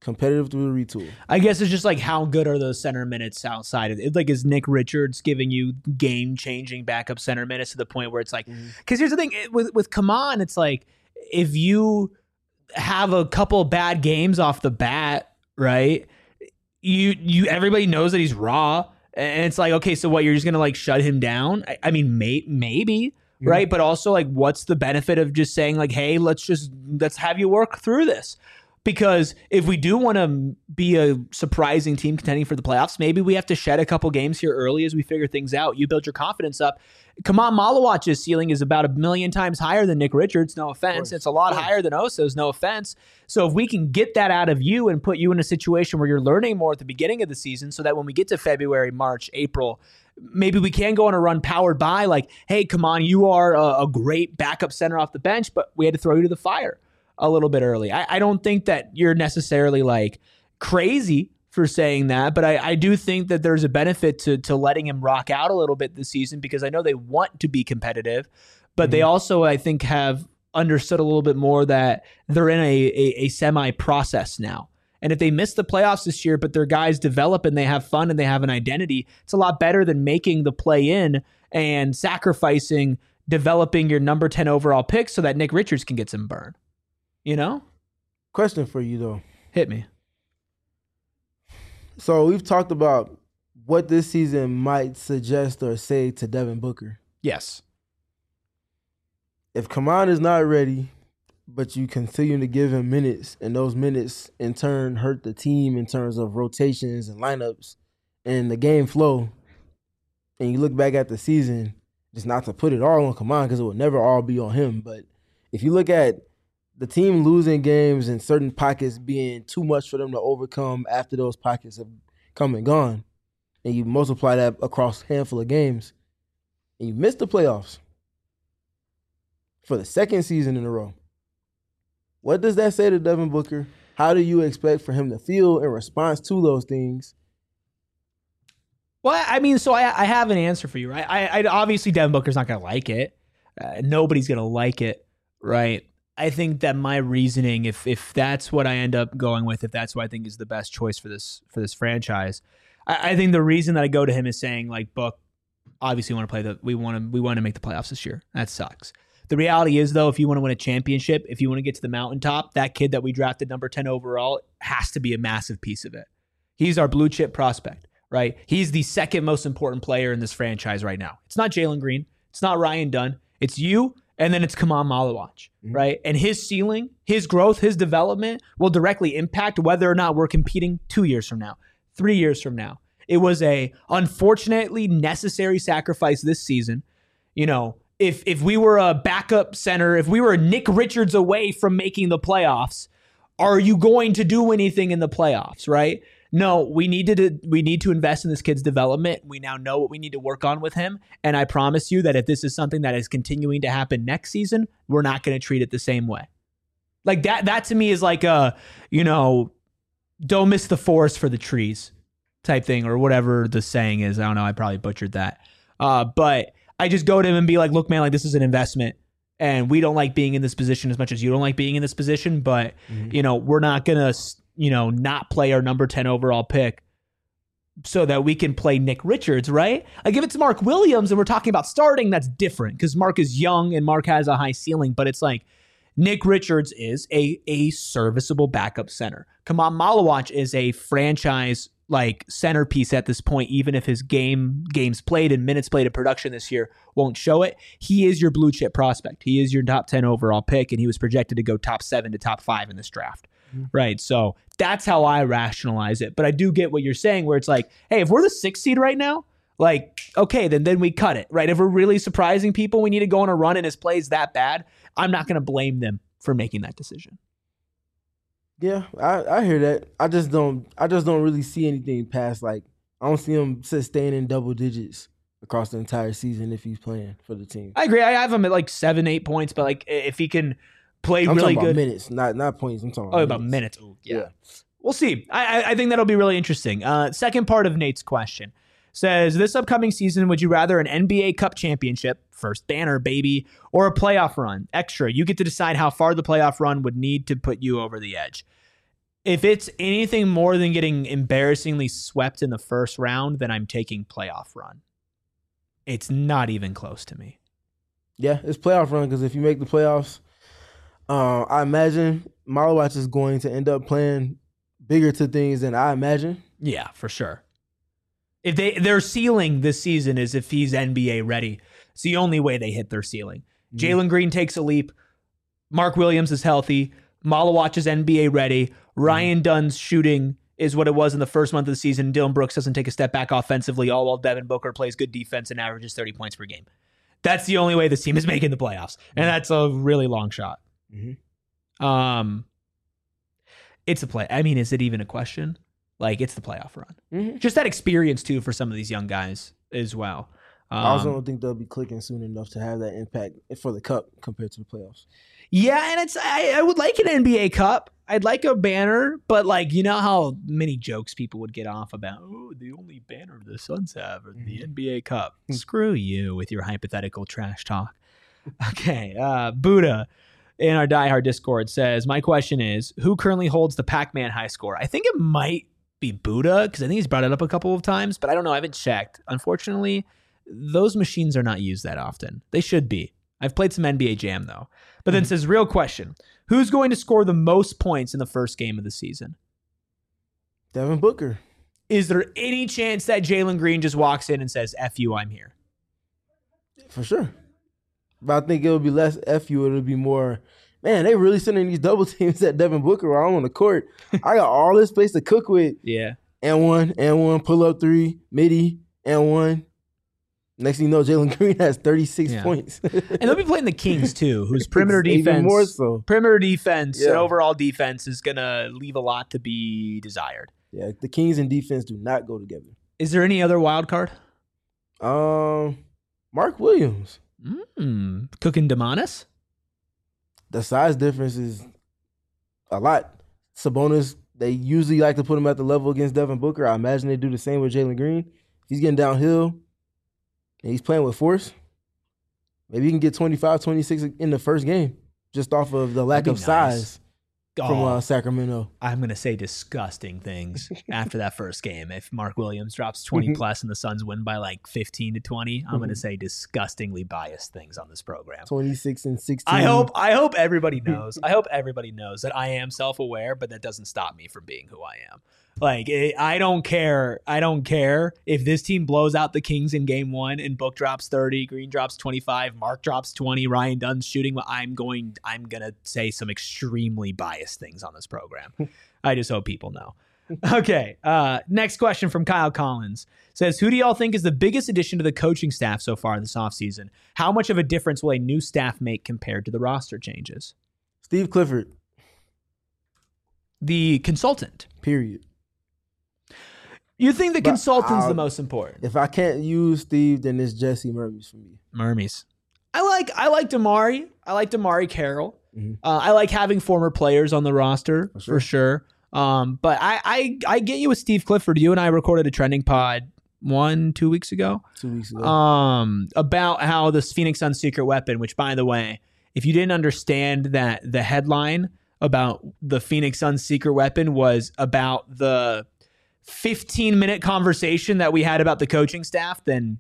competitive through the retool. I guess it's just like how good are those center minutes outside of it? Like, is Nick Richards giving you game changing backup center minutes to the point where it's like, because mm-hmm. here's the thing it, with with Kaman, it's like if you have a couple bad games off the bat, right? You you everybody knows that he's raw, and it's like, okay, so what? You're just gonna like shut him down? I, I mean, may, maybe. Mm-hmm. Right. But also, like, what's the benefit of just saying like, hey, let's just let's have you work through this? Because if we do want to be a surprising team contending for the playoffs, maybe we have to shed a couple games here early as we figure things out. You build your confidence up. Kaman Malawach's ceiling is about a million times higher than Nick Richards. No offense. It's a lot higher than Oso's. No offense. So if we can get that out of you and put you in a situation where you're learning more at the beginning of the season so that when we get to February, March, April, maybe we can go on a run powered by like, hey, Kaman, you are a, a great backup center off the bench, but we had to throw you to the fire a little bit early. I, I don't think that you're necessarily like crazy for saying that, but I, I do think that there's a benefit to to letting him rock out a little bit this season because I know they want to be competitive, but mm-hmm. they also, I think, have understood a little bit more that they're in a, a, a semi-process now. And if they miss the playoffs this year, but their guys develop and they have fun and they have an identity, it's a lot better than making the play in and sacrificing developing your number ten overall pick so that Nick Richards can get some burn. You know? Question for you, though. Hit me. So we've talked about what this season might suggest or say to Devin Booker. Yes. If Kaman is not ready, but you continue to give him minutes, and those minutes in turn hurt the team in terms of rotations and lineups and the game flow, and you look back at the season, just not to put it all on Kaman because it will never all be on him, but if you look at the team losing games and certain pockets being too much for them to overcome after those pockets have come and gone, and you multiply that across a handful of games, and you miss the playoffs for the second season in a row, what does that say to Devin Booker? How do you expect for him to feel in response to those things? Well, I mean, so I, I have an answer for you, right? I, I obviously Devin Booker's not going to like it. Uh, nobody's going to like it, right? I think that my reasoning, if if that's what I end up going with, if that's what I think is the best choice for this for this franchise, I, I think the reason that I go to him is saying like, Book, obviously we want to play the we want to we want to make the playoffs this year. That sucks. The reality is though, if you want to win a championship, if you want to get to the mountaintop, that kid that we drafted number ten overall has to be a massive piece of it. He's our blue chip prospect, right? He's the second most important player in this franchise right now. It's not Jalen Green. It's not Ryan Dunn. It's you. And then it's Kaman Malawach, mm-hmm. right? And his ceiling, his growth, his development will directly impact whether or not we're competing two years from now, three years from now. It was a unfortunately necessary sacrifice this season. You know, if if we were a backup center, if we were Nick Richards away from making the playoffs, are you going to do anything in the playoffs, right? No, we need to we need to invest in this kid's development. We now know what we need to work on with him. And I promise you that if this is something that is continuing to happen next season, we're not going to treat it the same way. Like that, that to me is like a, you know, don't miss the forest for the trees type thing or whatever the saying is. I don't know. I probably butchered that. Uh, but I just go to him and be like, look, man, like this is an investment. And we don't like being in this position as much as you don't like being in this position. But, mm-hmm. you know, we're not going to, you know, not play our number ten overall pick so that we can play Nick Richards, right? Like if it's Mark Williams and we're talking about starting, that's different because Mark is young and Mark has a high ceiling. But it's like Nick Richards is a, a serviceable backup center. Kaman Malawach is a franchise like centerpiece at this point, even if his game games played and minutes played in production this year won't show it. He is your blue chip prospect. He is your top ten overall pick, and he was projected to go top seven to top five in this draft. Mm-hmm. Right. So that's how I rationalize it. But I do get what you're saying where it's like, hey, if we're the sixth seed right now, like, okay, then then we cut it, right? If we're really surprising people, we need to go on a run and his play is that bad, I'm not going to blame them for making that decision. Yeah, I, I hear that. I just don't I just don't really see anything past like I don't see him staying in double digits across the entire season if he's playing for the team. I agree. I have him at like seven, eight points, but like if he can play I'm really talking good about minutes, not not points. I'm talking oh, about about minutes. minutes. Yeah. yeah. We'll see. I, I think that'll be really interesting. Uh, second part of Nate's question says, this upcoming season, would you rather an N B A Cup championship, first banner, baby, or a playoff run? Extra. You get to decide how far the playoff run would need to put you over the edge. If it's anything more than getting embarrassingly swept in the first round, then I'm taking playoff run. It's not even close to me. Yeah, it's playoff run because if you make the playoffs, uh, I imagine Malawach is going to end up playing bigger to things than I imagine. Yeah, for sure. If they their ceiling this season is if he's N B A ready. It's the only way they hit their ceiling. Mm-hmm. Jalen Green takes a leap. Mark Williams is healthy. Malawach is N B A ready. Ryan mm-hmm. Dunn's shooting is what it was in the first month of the season. Dylan Brooks doesn't take a step back offensively, all while Devin Booker plays good defense and averages thirty points per game. That's the only way this team is making the playoffs. And that's a really long shot. Mm-hmm. Um, It's a play. I mean, is it even a question? Like, it's the playoff run. Mm-hmm. Just that experience, too, for some of these young guys as well. Um, I also don't think they'll be clicking soon enough to have that impact for the Cup compared to the playoffs. Yeah, and it's I, I would like an N B A Cup. I'd like a banner, but, like, you know how many jokes people would get off about, oh, the only banner the Suns have is the N B A Cup. Screw you with your hypothetical trash talk. Okay, uh, Buddha in our diehard Discord says, my question is, who currently holds the Pac-Man high score? I think it might be Buddha, because I think he's brought it up a couple of times, but I don't know. I haven't checked. Unfortunately, those machines are not used that often. They should be. I've played some N B A Jam, though. But then mm-hmm. says, real question, who's going to score the most points in the first game of the season? Devin Booker. Is there any chance that Jalen Green just walks in and says, F you, I'm here? For sure. But I think it'll be less F you. It'll be more, man, they really sending these double teams at Devin Booker while I'm on the court. I got all this space to cook with. Yeah. And one, and one, pull up three, midi, and one. Next thing you know, Jalen Green has thirty-six yeah. points. And they'll be playing the Kings, too, whose perimeter defense, even more so. perimeter defense yeah. and overall defense is going to leave a lot to be desired. Yeah, the Kings and defense do not go together. Is there any other wild card? Um, Mark Williams. Mm, Cooking Demonis? The size difference is a lot. Sabonis, they usually like to put him at the level against Devin Booker. I imagine they do the same with Jalen Green. If he's getting downhill and he's playing with force, maybe he can get twenty-five, twenty-six in the first game just off of the lack of nice. size from oh, uh, Sacramento. I'm going to say disgusting things after that first game. If Mark Williams drops twenty plus and the Suns win by like fifteen to twenty, I'm going to say disgustingly biased things on this program. twenty-six and sixteen. I hope I hope everybody knows. I hope everybody knows that I am self-aware, but that doesn't stop me from being who I am. Like, it, I don't care. I don't care if this team blows out the Kings in game one and Book drops thirty, Green drops twenty-five, Mark drops twenty, Ryan Dunn's shooting. I'm going, I'm going to say some extremely biased things on this program. I just hope people know. Okay. Uh, next question from Kyle Collins says, who do y'all think is the biggest addition to the coaching staff so far this offseason? How much of a difference will a new staff make compared to the roster changes? Steve Clifford. The consultant. Period. You think the but consultant's I'll, the most important? If I can't use Steve, then it's Jesse Mermis for me. Mermis. I like I like Damari. I like Damari Carroll. Mm-hmm. Uh, I like having former players on the roster for sure. For sure. Um, but I, I I get you with Steve Clifford. You and I recorded a trending pod one, two weeks ago. Two weeks ago. Um, about how this Phoenix Suns secret weapon, which by the way, if you didn't understand that the headline about the Phoenix Suns secret weapon was about the fifteen minute conversation that we had about the coaching staff, then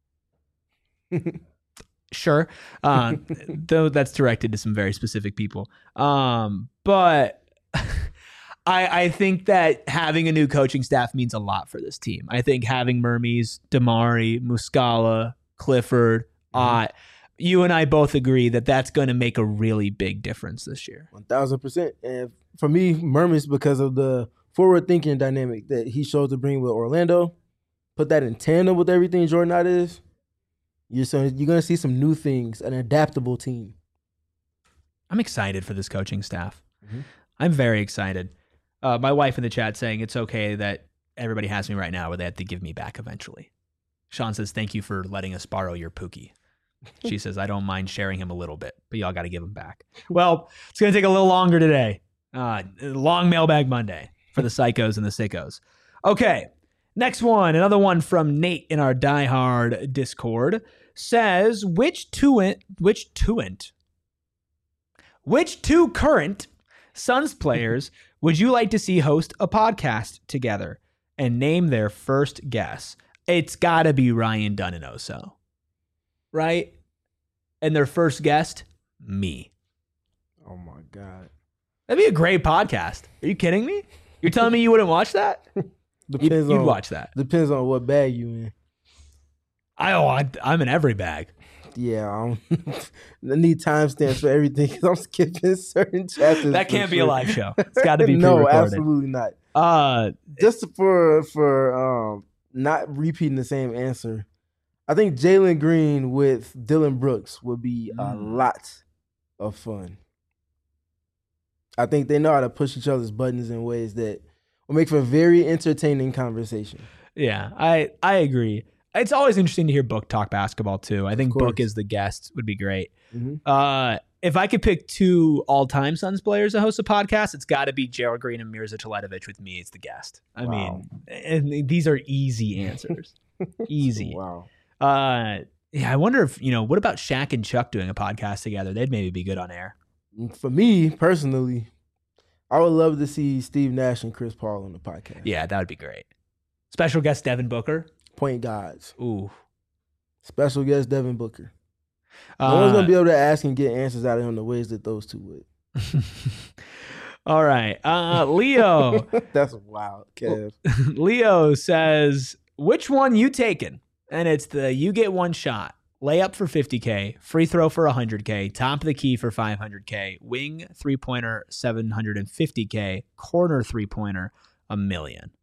sure. Uh, though that's directed to some very specific people. Um, but I, I think that having a new coaching staff means a lot for this team. I think having Mermis, Damari, Muscala, Clifford, Ott, mm-hmm. you and I both agree that that's going to make a really big difference this year. one thousand percent. And for me, Mermis, because of the forward-thinking dynamic that he showed to bring with Orlando, put that in tandem with everything Jordan Knott is, you're, so, you're going to see some new things, an adaptable team. I'm excited for this coaching staff. Mm-hmm. I'm very excited. Uh, my wife in the chat saying it's okay that everybody has me right now where they have to give me back eventually. Sean says, thank you for letting us borrow your Pookie. She says, I don't mind sharing him a little bit, but y'all got to give him back. Well, it's going to take a little longer today. Uh, long mailbag Monday for the psychos and the sickos. Okay, next one. Another one from Nate in our diehard Discord says, which two, which two, which two current Suns players Would you like to see host a podcast together and name their first guest? It's got to be Ryan Dunn and Oso, right? And their first guest, me. Oh my God. That'd be a great podcast. Are you kidding me? You're telling me you wouldn't watch that? Depends you'd, you'd on, watch that. Depends on what bag you in. I, oh, I, I'm in every bag. Yeah, I, I need timestamps for everything because I'm skipping certain chapters. That can't be sure. a live show. It's got to be no, pre-recorded. absolutely not. Uh, Just for for um not repeating the same answer, I think Jalen Green with Dylan Brooks would be a Mm. lot of fun. I think they know how to push each other's buttons in ways that will make for a very entertaining conversation. yeah, I I agree. It's always interesting to hear Book talk basketball too. I think course. Book as the guest would be great. Mm-hmm. Uh, if I could pick two all-time Suns players to host a podcast, it's got to be Gerald Green and Mirza Teletovic with me as the guest. I Wow. mean, and these are easy answers. Easy. Wow. Uh, yeah, I wonder if, you know, what about Shaq and Chuck doing a podcast together? They'd maybe be good on air. For me personally, I would love to see Steve Nash and Chris Paul on the podcast. Yeah, that would be great. Special guest Devin Booker. Point guards. Ooh. Special guest Devin Booker. No Uh, one's gonna be able to ask and get answers out of him the ways that those two would. All right. Uh, Leo. That's wild, Kev. Leo says, which one you taking? And it's the you get one shot. Layup for fifty K, free throw for one hundred K, top of the key for five hundred K, wing three-pointer seven hundred fifty K, corner three-pointer a million.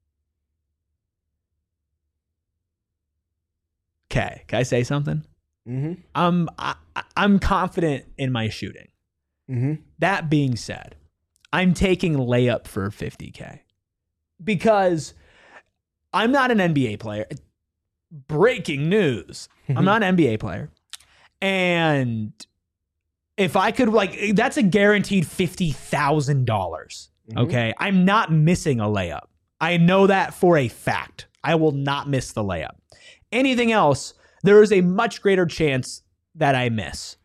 Okay, can I say something? Mm-hmm. I'm I, I'm confident in my shooting. Mm-hmm. That being said, I'm taking layup for fifty K because I'm not an N B A player. Breaking news. I'm not an N B A player. And if I could, like, that's a guaranteed fifty thousand dollars. Mhm. Okay. I'm not missing a layup. I know that for a fact. I will not miss the layup. Anything else, there is a much greater chance that I miss.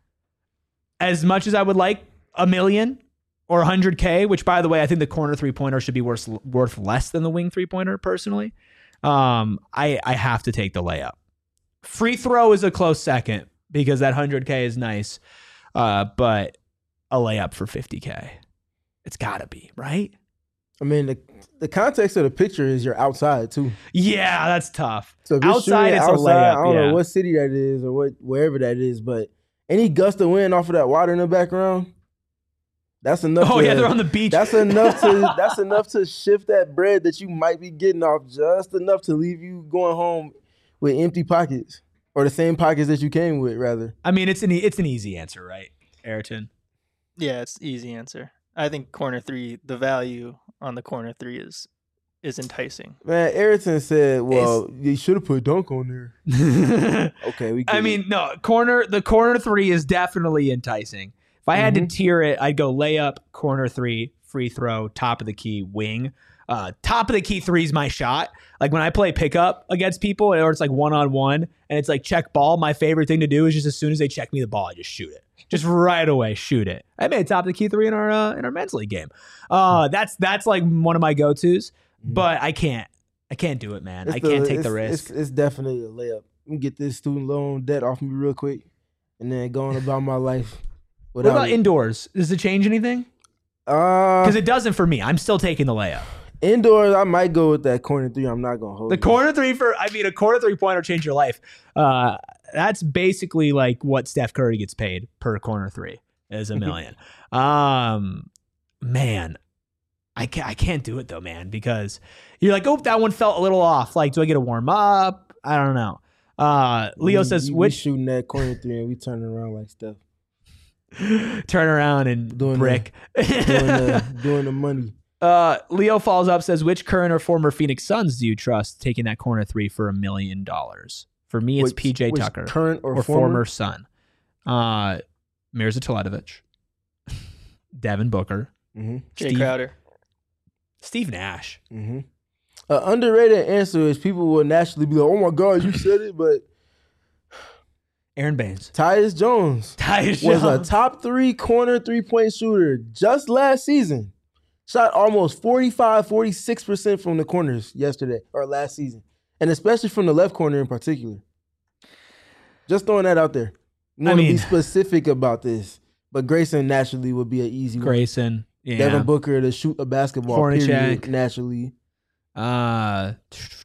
As much as I would like a million or one hundred K, which, by the way, I think the corner three-pointer should be worth, worth less than the wing three-pointer, personally. Um, I, I have to take the layup. Free throw is a close second because that one hundred K is nice, uh, but a layup for fifty K. It's got to be, right? I mean, the the context of the picture is you're outside too. Yeah, that's tough. So if you're Outside, shooting it's a outside, layup, I don't yeah. know what city that is or what wherever that is, but any gust of wind off of that water in the background, that's enough. Oh, to, yeah, they're on the beach. That's enough to that's enough to shift that bread that you might be getting off just enough to leave you going home with empty pockets or the same pockets that you came with, rather. I mean, it's an, e- it's an easy answer, right, Ayrton? Yeah, it's easy answer. I think corner three, the value on the corner three is is enticing. Man, Ayrton said, "Well, you should have put dunk on there." Okay, we. Get I it. mean, no, corner the corner three is definitely enticing. If I had Mhm. to tier it, I'd go layup, corner three, free throw, top of the key, wing. Uh, top of the key three is my shot. Like when I play pickup against people, or it's like one on one, and it's like check ball. My favorite thing to do is just as soon as they check me the ball, I just shoot it, just right away, shoot it. I made top of the key three in our uh, in our men's league game. Uh, that's that's like one of my go tos, but I can't I can't do it, man. It's I can't take it's- the risk. It's, it's definitely a layup. Let me get this student loan debt off me real quick, and then go on about my life. What about it. indoors? Does it change anything? Uh, Because it doesn't for me. I'm still taking the layup. indoors, I might go with that corner three. I'm not gonna hold The you. corner three for, I mean, a corner three pointer change your life. Uh, that's basically like what Steph Curry gets paid per corner three is a million. um, man, I can't, I can't do it though, man, because you're like, oh, that one felt a little off. Like, do I get to warm up? I don't know. Uh, Leo We- says, we, we which shooting that corner three and we turning around like Steph, turn around and Doing the- brick. doing the doing the money. Uh, Leo follows up, says, which current or former Phoenix Suns do you trust taking that corner three for a million dollars? For me, it's Which- P J which Tucker current or, or, former? former. Sun. Uh, Mirza Teletovic, Devin Booker, Mm-hmm. Jay Steve- Crowder. Steve Nash. Mm-hmm. An underrated answer is people will naturally be like, "Oh my God, you said it," but Aaron Baines. Tyus Jones Tyus was a Jones. top three corner three point shooter just last season. shot almost forty-five, forty-six percent from the corners yesterday or last season. And especially from the left corner in particular. Just throwing that out there. I'm going to be specific about this. But Grayson naturally would be an easy one. Grayson, yeah. Devin Booker to shoot a basketball, Hornacek. period, naturally. Uh,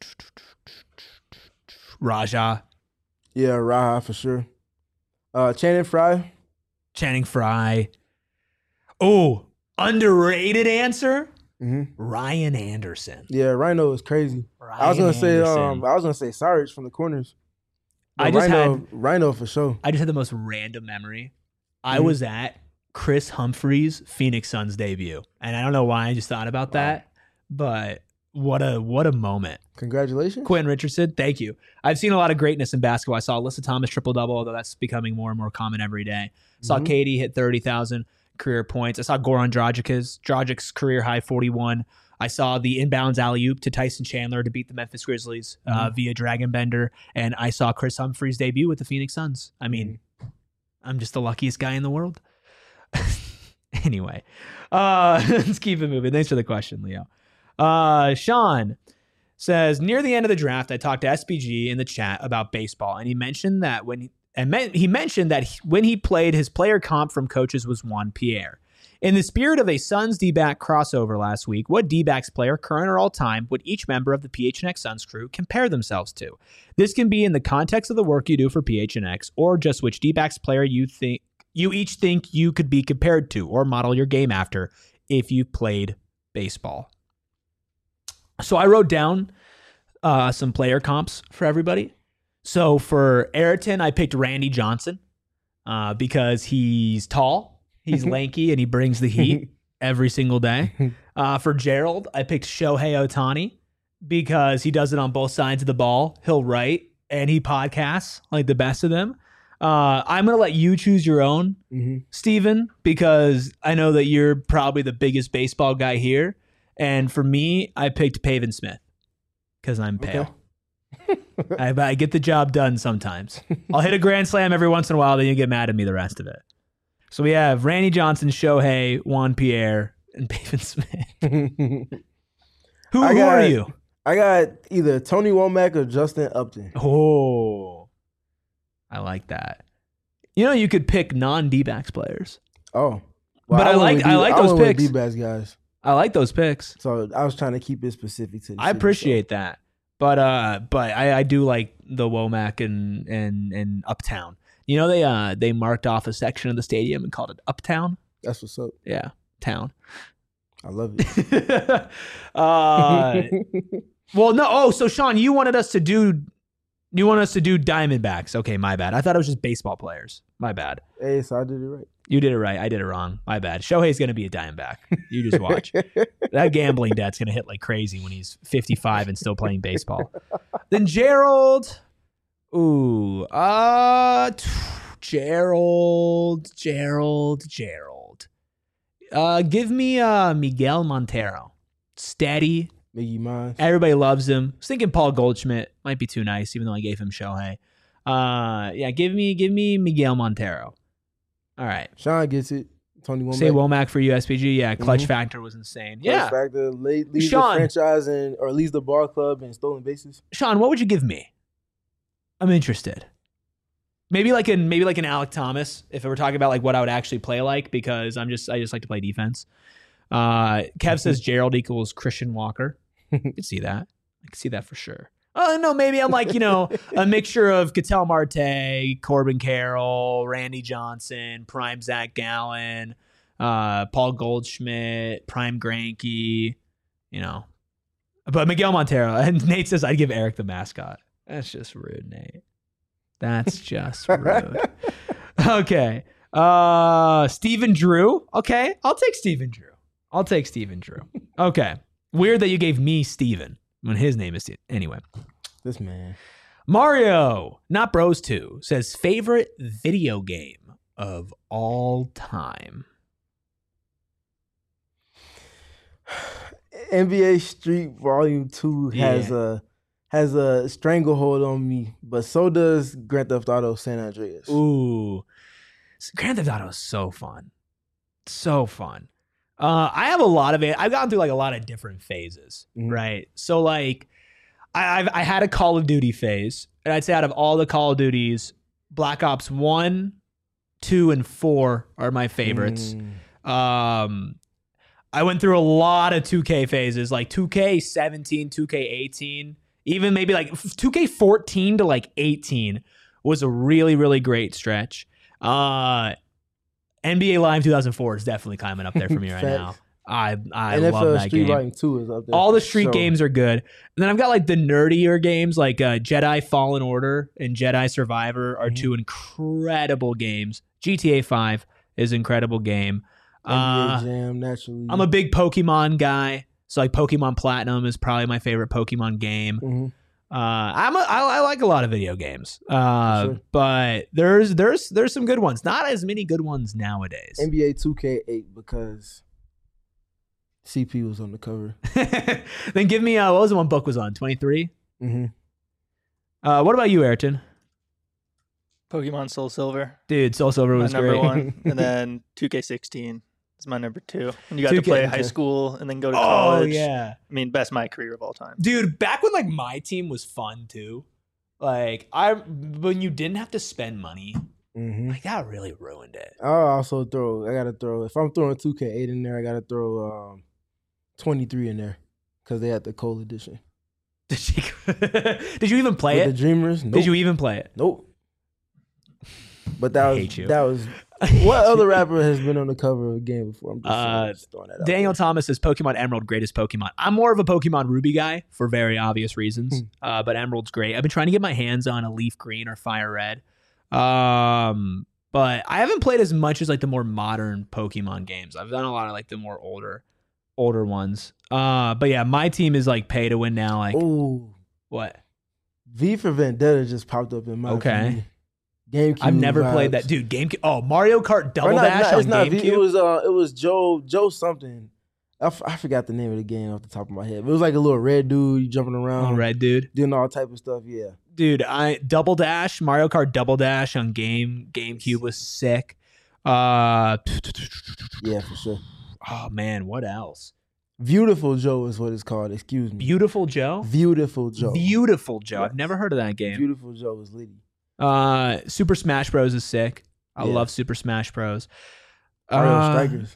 Raja. Yeah, Raja for sure. Uh, Channing Frye. Channing Frye. Oh, underrated answer? Mm-hmm. Ryan Anderson. Yeah, Rhino is crazy. Ryan I was gonna say, Anderson. um, I was gonna say Sarge from the corners. But I just Rhino, had Rhino for sure. I just had the most random memory. I Mhm. was at Chris Humphries' Phoenix Suns debut, and I don't know why I just thought about Wow. that, but what a what a moment. Congratulations. Quentin Richardson, thank you. I've seen a lot of greatness in basketball. I saw Alyssa Thomas triple double, although that's becoming more and more common every day. Saw Mhm. Katie hit thirty thousand career points. I saw Goran Dragic's Dragic's career high forty-one. I saw the inbounds alley-oop to Tyson Chandler to beat the Memphis Grizzlies uh, Mhm. via Dragon Bender. And I saw Chris Humphries' debut with the Phoenix Suns. I mean, I'm just the luckiest guy in the world. Anyway, uh, let's keep it moving. Thanks for the question, Leo. Uh, Sean says, near the end of the draft, I talked to S B G in the chat about baseball, and he mentioned that when he, and men, he mentioned that he, when he played, his player comp from coaches was Juan Pierre. In the spirit of a Suns D-back crossover last week, what D-backs player, current or all-time, would each member of the P H N X Suns crew compare themselves to? This can be in the context of the work you do for P H N X, or just which D-backs player you think you each think you could be compared to or model your game after if you played baseball. So I wrote down uh, some player comps for everybody. So for Ayrton, I picked Randy Johnson uh, because he's tall. He's lanky and he brings the heat every single day. Uh, for Gerald, I picked Shohei Ohtani because he does it on both sides of the ball. He'll write and he podcasts like the best of them. Uh, I'm going to let you choose your own, Mm-hmm. Steven, because I know that you're probably the biggest baseball guy here. And for me, I picked Pavin Smith because I'm pale. Okay. I, I get the job done sometimes. I'll hit a grand slam every once in a while, then you get mad at me the rest of it. So we have Randy Johnson, Shohei, Juan Pierre, and Pavin Smith. Who, I who got- are you? I got either Tony Womack or Justin Upton. Oh, I like that. You know, you could pick non-D-backs players. Oh. But I went like- with I D- like I those went with picks. D-backs guys. I like those picks. So I was trying to keep it specific to the I city, appreciate that. But uh, but I, I do like the Womack and and and Uptown. You know, they uh they marked off a section of the stadium and called it Uptown. so That's what's up. Yeah, town. I love it. uh, well, no. Oh, so Sean, you wanted us to do, you want us to do Diamondbacks? Okay, my bad. I thought it was just baseball players. My bad. Hey, so I did it right. You did it right. I did it wrong. My bad. Shohei's gonna be a Diamondback. You just watch. That gambling debt's gonna hit like crazy when he's fifty-five and still playing baseball. Then Gerald. Ooh, uh, t- Gerald, Gerald, Gerald. Uh, give me uh Miguel Montero. Steady. Miggy Mines. Everybody loves him. I was thinking Paul Goldschmidt might be too nice, even though I gave him Shohei. Uh, yeah, give me, give me Miguel Montero. All right. Sean gets it. Tony Womack. Say Womack for U S P G. Yeah, clutch Mhm. factor was insane. Clutch Yeah. Factor lead, leads Sean. the franchise and or leads the ball club in stolen bases. Sean, what would you give me? I'm interested. Maybe like an maybe like an Alec Thomas, if we're talking about like what I would actually play like, because I'm just I just like to play defense. Uh, Kev says Gerald equals Christian Walker. I can see that. I can see that for sure. Oh no, maybe I'm like, you know, a mixture of Ketel Marte, Corbin Carroll, Randy Johnson, Prime Zach Gallen, uh, Paul Goldschmidt, Prime Granke, you know. But Miguel Montero. And Nate says I'd give Eric the mascot. That's just rude, Nate. That's just rude. Okay. Uh Stephen Drew. Okay. I'll take Stephen Drew. I'll take Stephen Drew. Okay. Weird that you gave me Steven when his name is Steven. Anyway. This man. Mario, not Bros two, says favorite video game of all time. N B A Street Volume Two has Yeah. a has a stranglehold on me, but so does Grand Theft Auto San Andreas. Ooh. Grand Theft Auto is so fun. So fun. Uh, I have a lot of it. I've gone through like a lot of different phases, Mhm. right? So like, I, I've I had a Call of Duty phase, and I'd say out of all the Call of Duties, Black Ops One, Two, and Four are my favorites. Mm. Um, I went through a lot of two K phases, like two K seventeen, two K eighteen, even maybe like two K fourteen to like eighteen was a really, really great stretch. Uh, N B A Live two thousand four is definitely climbing up there for me right Facts. now. I I N F L love that Street game. Fighting two is up there. All the for street sure. games are good. And then I've got like the nerdier games like uh, Jedi Fallen Order and Jedi Survivor are Mhm. two incredible games. G T A five is an incredible game. N B A Uh, Jam, naturally. I'm a big Pokemon guy. So like Pokemon Platinum is probably my favorite Pokemon game. Mhm. Uh, I'm a, I, I like a lot of video games. Uh, Sure. but there's there's there's some good ones. Not as many good ones nowadays. N B A two K eight because C P was on the cover. Then give me uh, what was the one book was on? twenty-three. Mm-hmm. Uh, what about you, Ayrton? Pokemon Soul Silver, Dude, Soul Silver my was number great. one, and then two K sixteen is my number two. And you got two to K play high okay. school and then go to Oh college. yeah, I mean, best my career of all time. dude. Back when like my team was fun too. Like I when you didn't have to spend money, Mm-hmm. like that really ruined it. I'll also throw. I gotta throw. If I'm throwing two K eight in there, I gotta throw um, twenty-three in there because they had the Cole edition. Did you? Did you even play With it? the Dreamers. Nope. Did you even play it? Nope. But that I was hate you. that was what other rapper has been on the cover of a game before? I'm just, saying, Uh, just throwing that out Daniel there. Thomas says Pokemon Emerald, greatest Pokemon. I'm more of a Pokemon Ruby guy for very obvious reasons, Hmm. uh, but Emerald's great. I've been trying to get my hands on a Leaf Green or Fire Red, um, but I haven't played as much as like the more modern Pokemon games. I've done a lot of like the more older, older ones. Uh, but yeah, my team is like pay to win now. Like Oh, what? V for Vendetta just popped up in my Okay. GameCube. I've never vibes. played that, dude. GameCube. Oh, Mario Kart Or Double not- Dash not- on it's not V. GameCube. It was uh, it was Joe Joe something. I, f- I forgot the name of the game off the top of my head. But it was like a little red dude jumping around, Oh, red dude. doing all type of stuff. Yeah. Dude, I Double Dash, Mario Kart Double Dash on game GameCube was sick. Uh, Yeah, for sure. oh man, what else? Beautiful Joe is what it's called. Excuse me. Beautiful Joe. Beautiful Joe. Beautiful Joe. I've Yes. never heard of that game. Beautiful Joe is litty. Uh, Super Smash Bros is sick. I Yeah. love Super Smash Bros. Mario Uh, Strikers.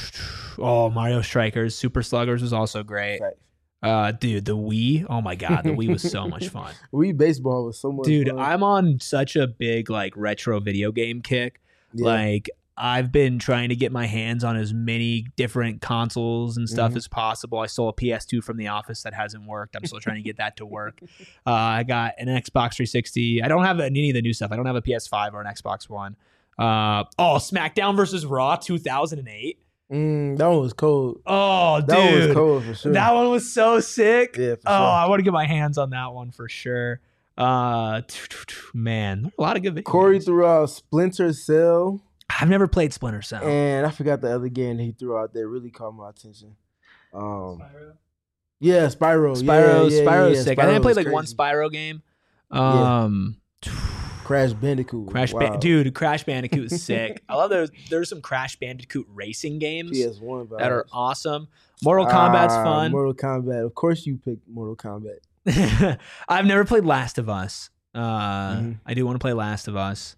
Oh, Mario Strikers. Super Sluggers was also great. Facts. Uh, dude, the Wii. Oh my god, the Wii was so much fun. Wii baseball was so much Dude, fun. I'm on such a big like retro video game kick. Yeah. Like I've been trying to get my hands on as many different consoles and stuff Mhm. as possible. I stole a P S two from the office that hasn't worked. I'm still trying to get that to work. Uh, I got an Xbox three sixty. I don't have any of the new stuff. I don't have a P S five or an Xbox One. Uh, oh, SmackDown versus Raw two thousand eight. Mm, that one was cold. Oh, dude. That one was cold for sure. That one was so sick. Yeah, for Oh, sure. I want to get my hands on that one for sure. Uh, man, a lot of good videos. Corey threw out Splinter Cell, I've never played Splinter Cell. and I forgot the other game that he threw out there. Really caught my attention. Um, yeah, Spyro. Spyro, yeah, yeah, Spyro's yeah, sick. I think I Spyro played was like one crazy. Spyro game. Yeah. Um, Crash Bandicoot. Crash, wow. Ban- dude, Crash Bandicoot is sick. I love those. There's some Crash Bandicoot racing games P S one that are vibes. awesome. Mortal Kombat's Ah, fun. Mortal Kombat. Of course, you picked Mortal Kombat. I've never played Last of Us. Uh, Mhm. I do want to play Last of Us.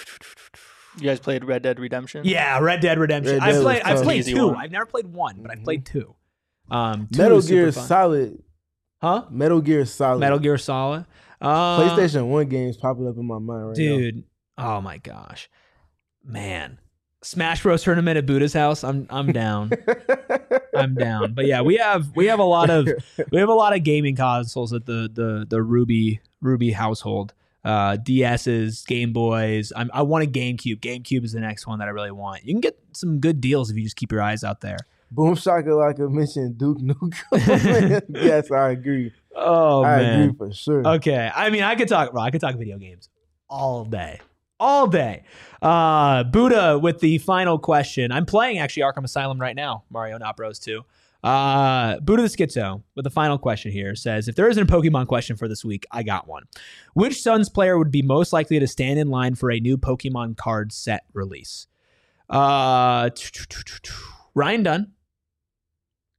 You guys played Red Dead Redemption? Yeah, Red Dead Redemption. Red I've Dead played. was I've tough. played Easy two. one. I've never played one, but I've Mhm. played two. Um, two Metal is super Gear fun. Solid. Huh? Metal Gear Solid. Metal Gear Solid. Uh, PlayStation One games popping up in my mind right dude. Oh my gosh, man. Smash Bros tournament at Buddha's house. I'm I'm down. now. I'm down. But yeah, we have we have a lot of we have a lot of gaming consoles at the the the Ruby Ruby household. Uh, D S's, Game Boys. I'm, I want a GameCube. GameCube is the next one that I really want. You can get some good deals if you just keep your eyes out there. Boom Shakalaka mentioned Duke Nukem. Yes, I agree. Oh I man. agree for sure. Okay. I mean, I could talk, bro. I could talk video games all day. All day. Uh, Buddha with the final question. I'm playing actually Arkham Asylum right now, Mario Not Bros two. Uh, Buddha the Schizo with the final question here says, if there isn't a Pokemon question for this week, I got one. Which Suns player would be most likely to stand in line for a new Pokemon card set release? Uh, Ryan Dunn.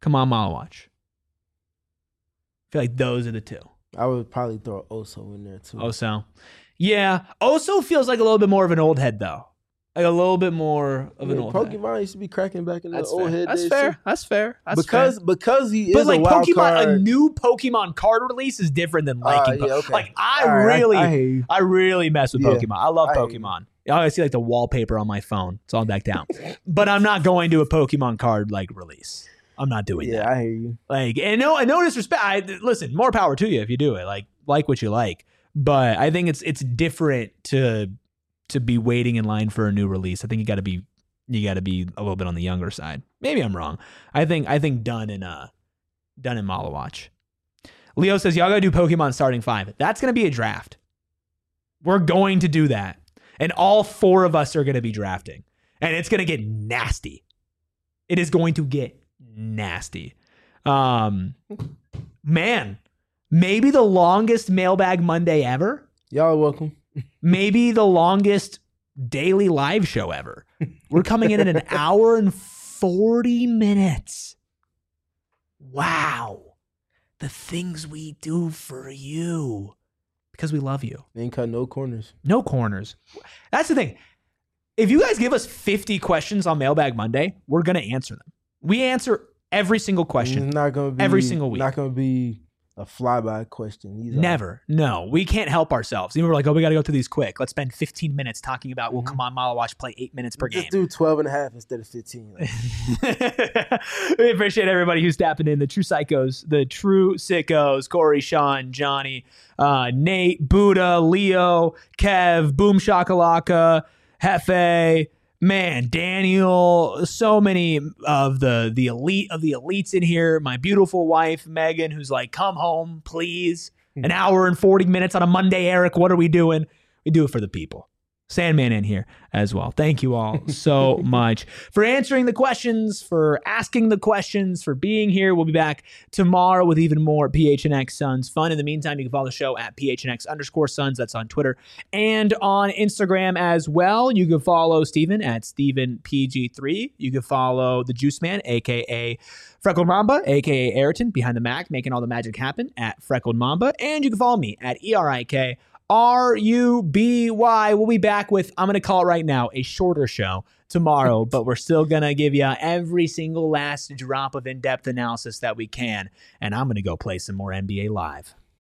Come on, Malawatch. I feel like those are the two. I would probably throw Oso in there too. Oso. Yeah. Oso feels like a little bit more of an old head, though. Like a little bit more of I mean, an old Pokemon head. used to be cracking back in the That's old fair. head That's days, fair. too. That's fair. That's because fair. because he But is like a wild Pokemon, card. a new Pokemon card release is different than liking. Uh, yeah, Po- okay. Like I All right, really, I, I I, hear you. really mess with Yeah, Pokemon. I love I hear you. Pokemon. I see like the wallpaper on my phone. It's all decked out. But I'm not going to a Pokemon card like release. I'm not doing Yeah, that. I hear you. Like, and no, and no disrespect. I, listen, more power to you if you do it. Like, like what you like. But I think it's it's different to to be waiting in line for a new release. I think you got to be you got to be a little bit on the younger side. Maybe I'm wrong. I think I think done in uh done in Malawatch. Leo says y'all gotta do Pokemon starting five. That's gonna be a draft. We're going to do that, and all four of us are gonna be drafting, and it's gonna get nasty. It is going to get nasty. Um, man, maybe the longest Mailbag Monday ever. Y'all are welcome. Maybe the longest daily live show ever. We're coming in at an hour and forty minutes. Wow. The things we do for you because we love you. They ain't cut no corners. No corners. That's the thing. If you guys give us fifty questions on Mailbag Monday, we're going to answer them. We answer every single question. It's not gonna be every single week. Not gonna be a flyby question. These are- Never. No, we can't help ourselves. Even we're like, oh, we got to go through these quick. Let's spend fifteen minutes talking about, well, Mhm. come on, Malawatch, play eight minutes per Just game. do twelve and a half instead of fifteen. Like, We appreciate everybody who's tapping in. The true psychos, the true sickos, Corey, Sean, Johnny, uh, Nate, Buddha, Leo, Kev, Boom Shakalaka, Hefe, man, Daniel, so many of the the elite of the elites in here. My beautiful wife, Megan, who's like, come home, please. An hour and forty minutes on a Monday, Eric. What are we doing? We do it for the people. Sandman in here as well. Thank you all so much for answering the questions, for asking the questions, for being here. We'll be back tomorrow with even more P H N X Suns fun. In the meantime, you can follow the show at P H N X underscore Suns. That's on Twitter and on Instagram as well. You can follow Steven at Steven P G three. You can follow the Juice Man, a k a. Freckled Mamba, a k a. Ayrton, behind the Mac, making all the magic happen at Freckled Mamba. And you can follow me at E R I K R U B Y. We'll be back with, I'm going to call it right now, a shorter show tomorrow, but we're still going to give you every single last drop of in-depth analysis that we can. And I'm going to go play some more N B A Live.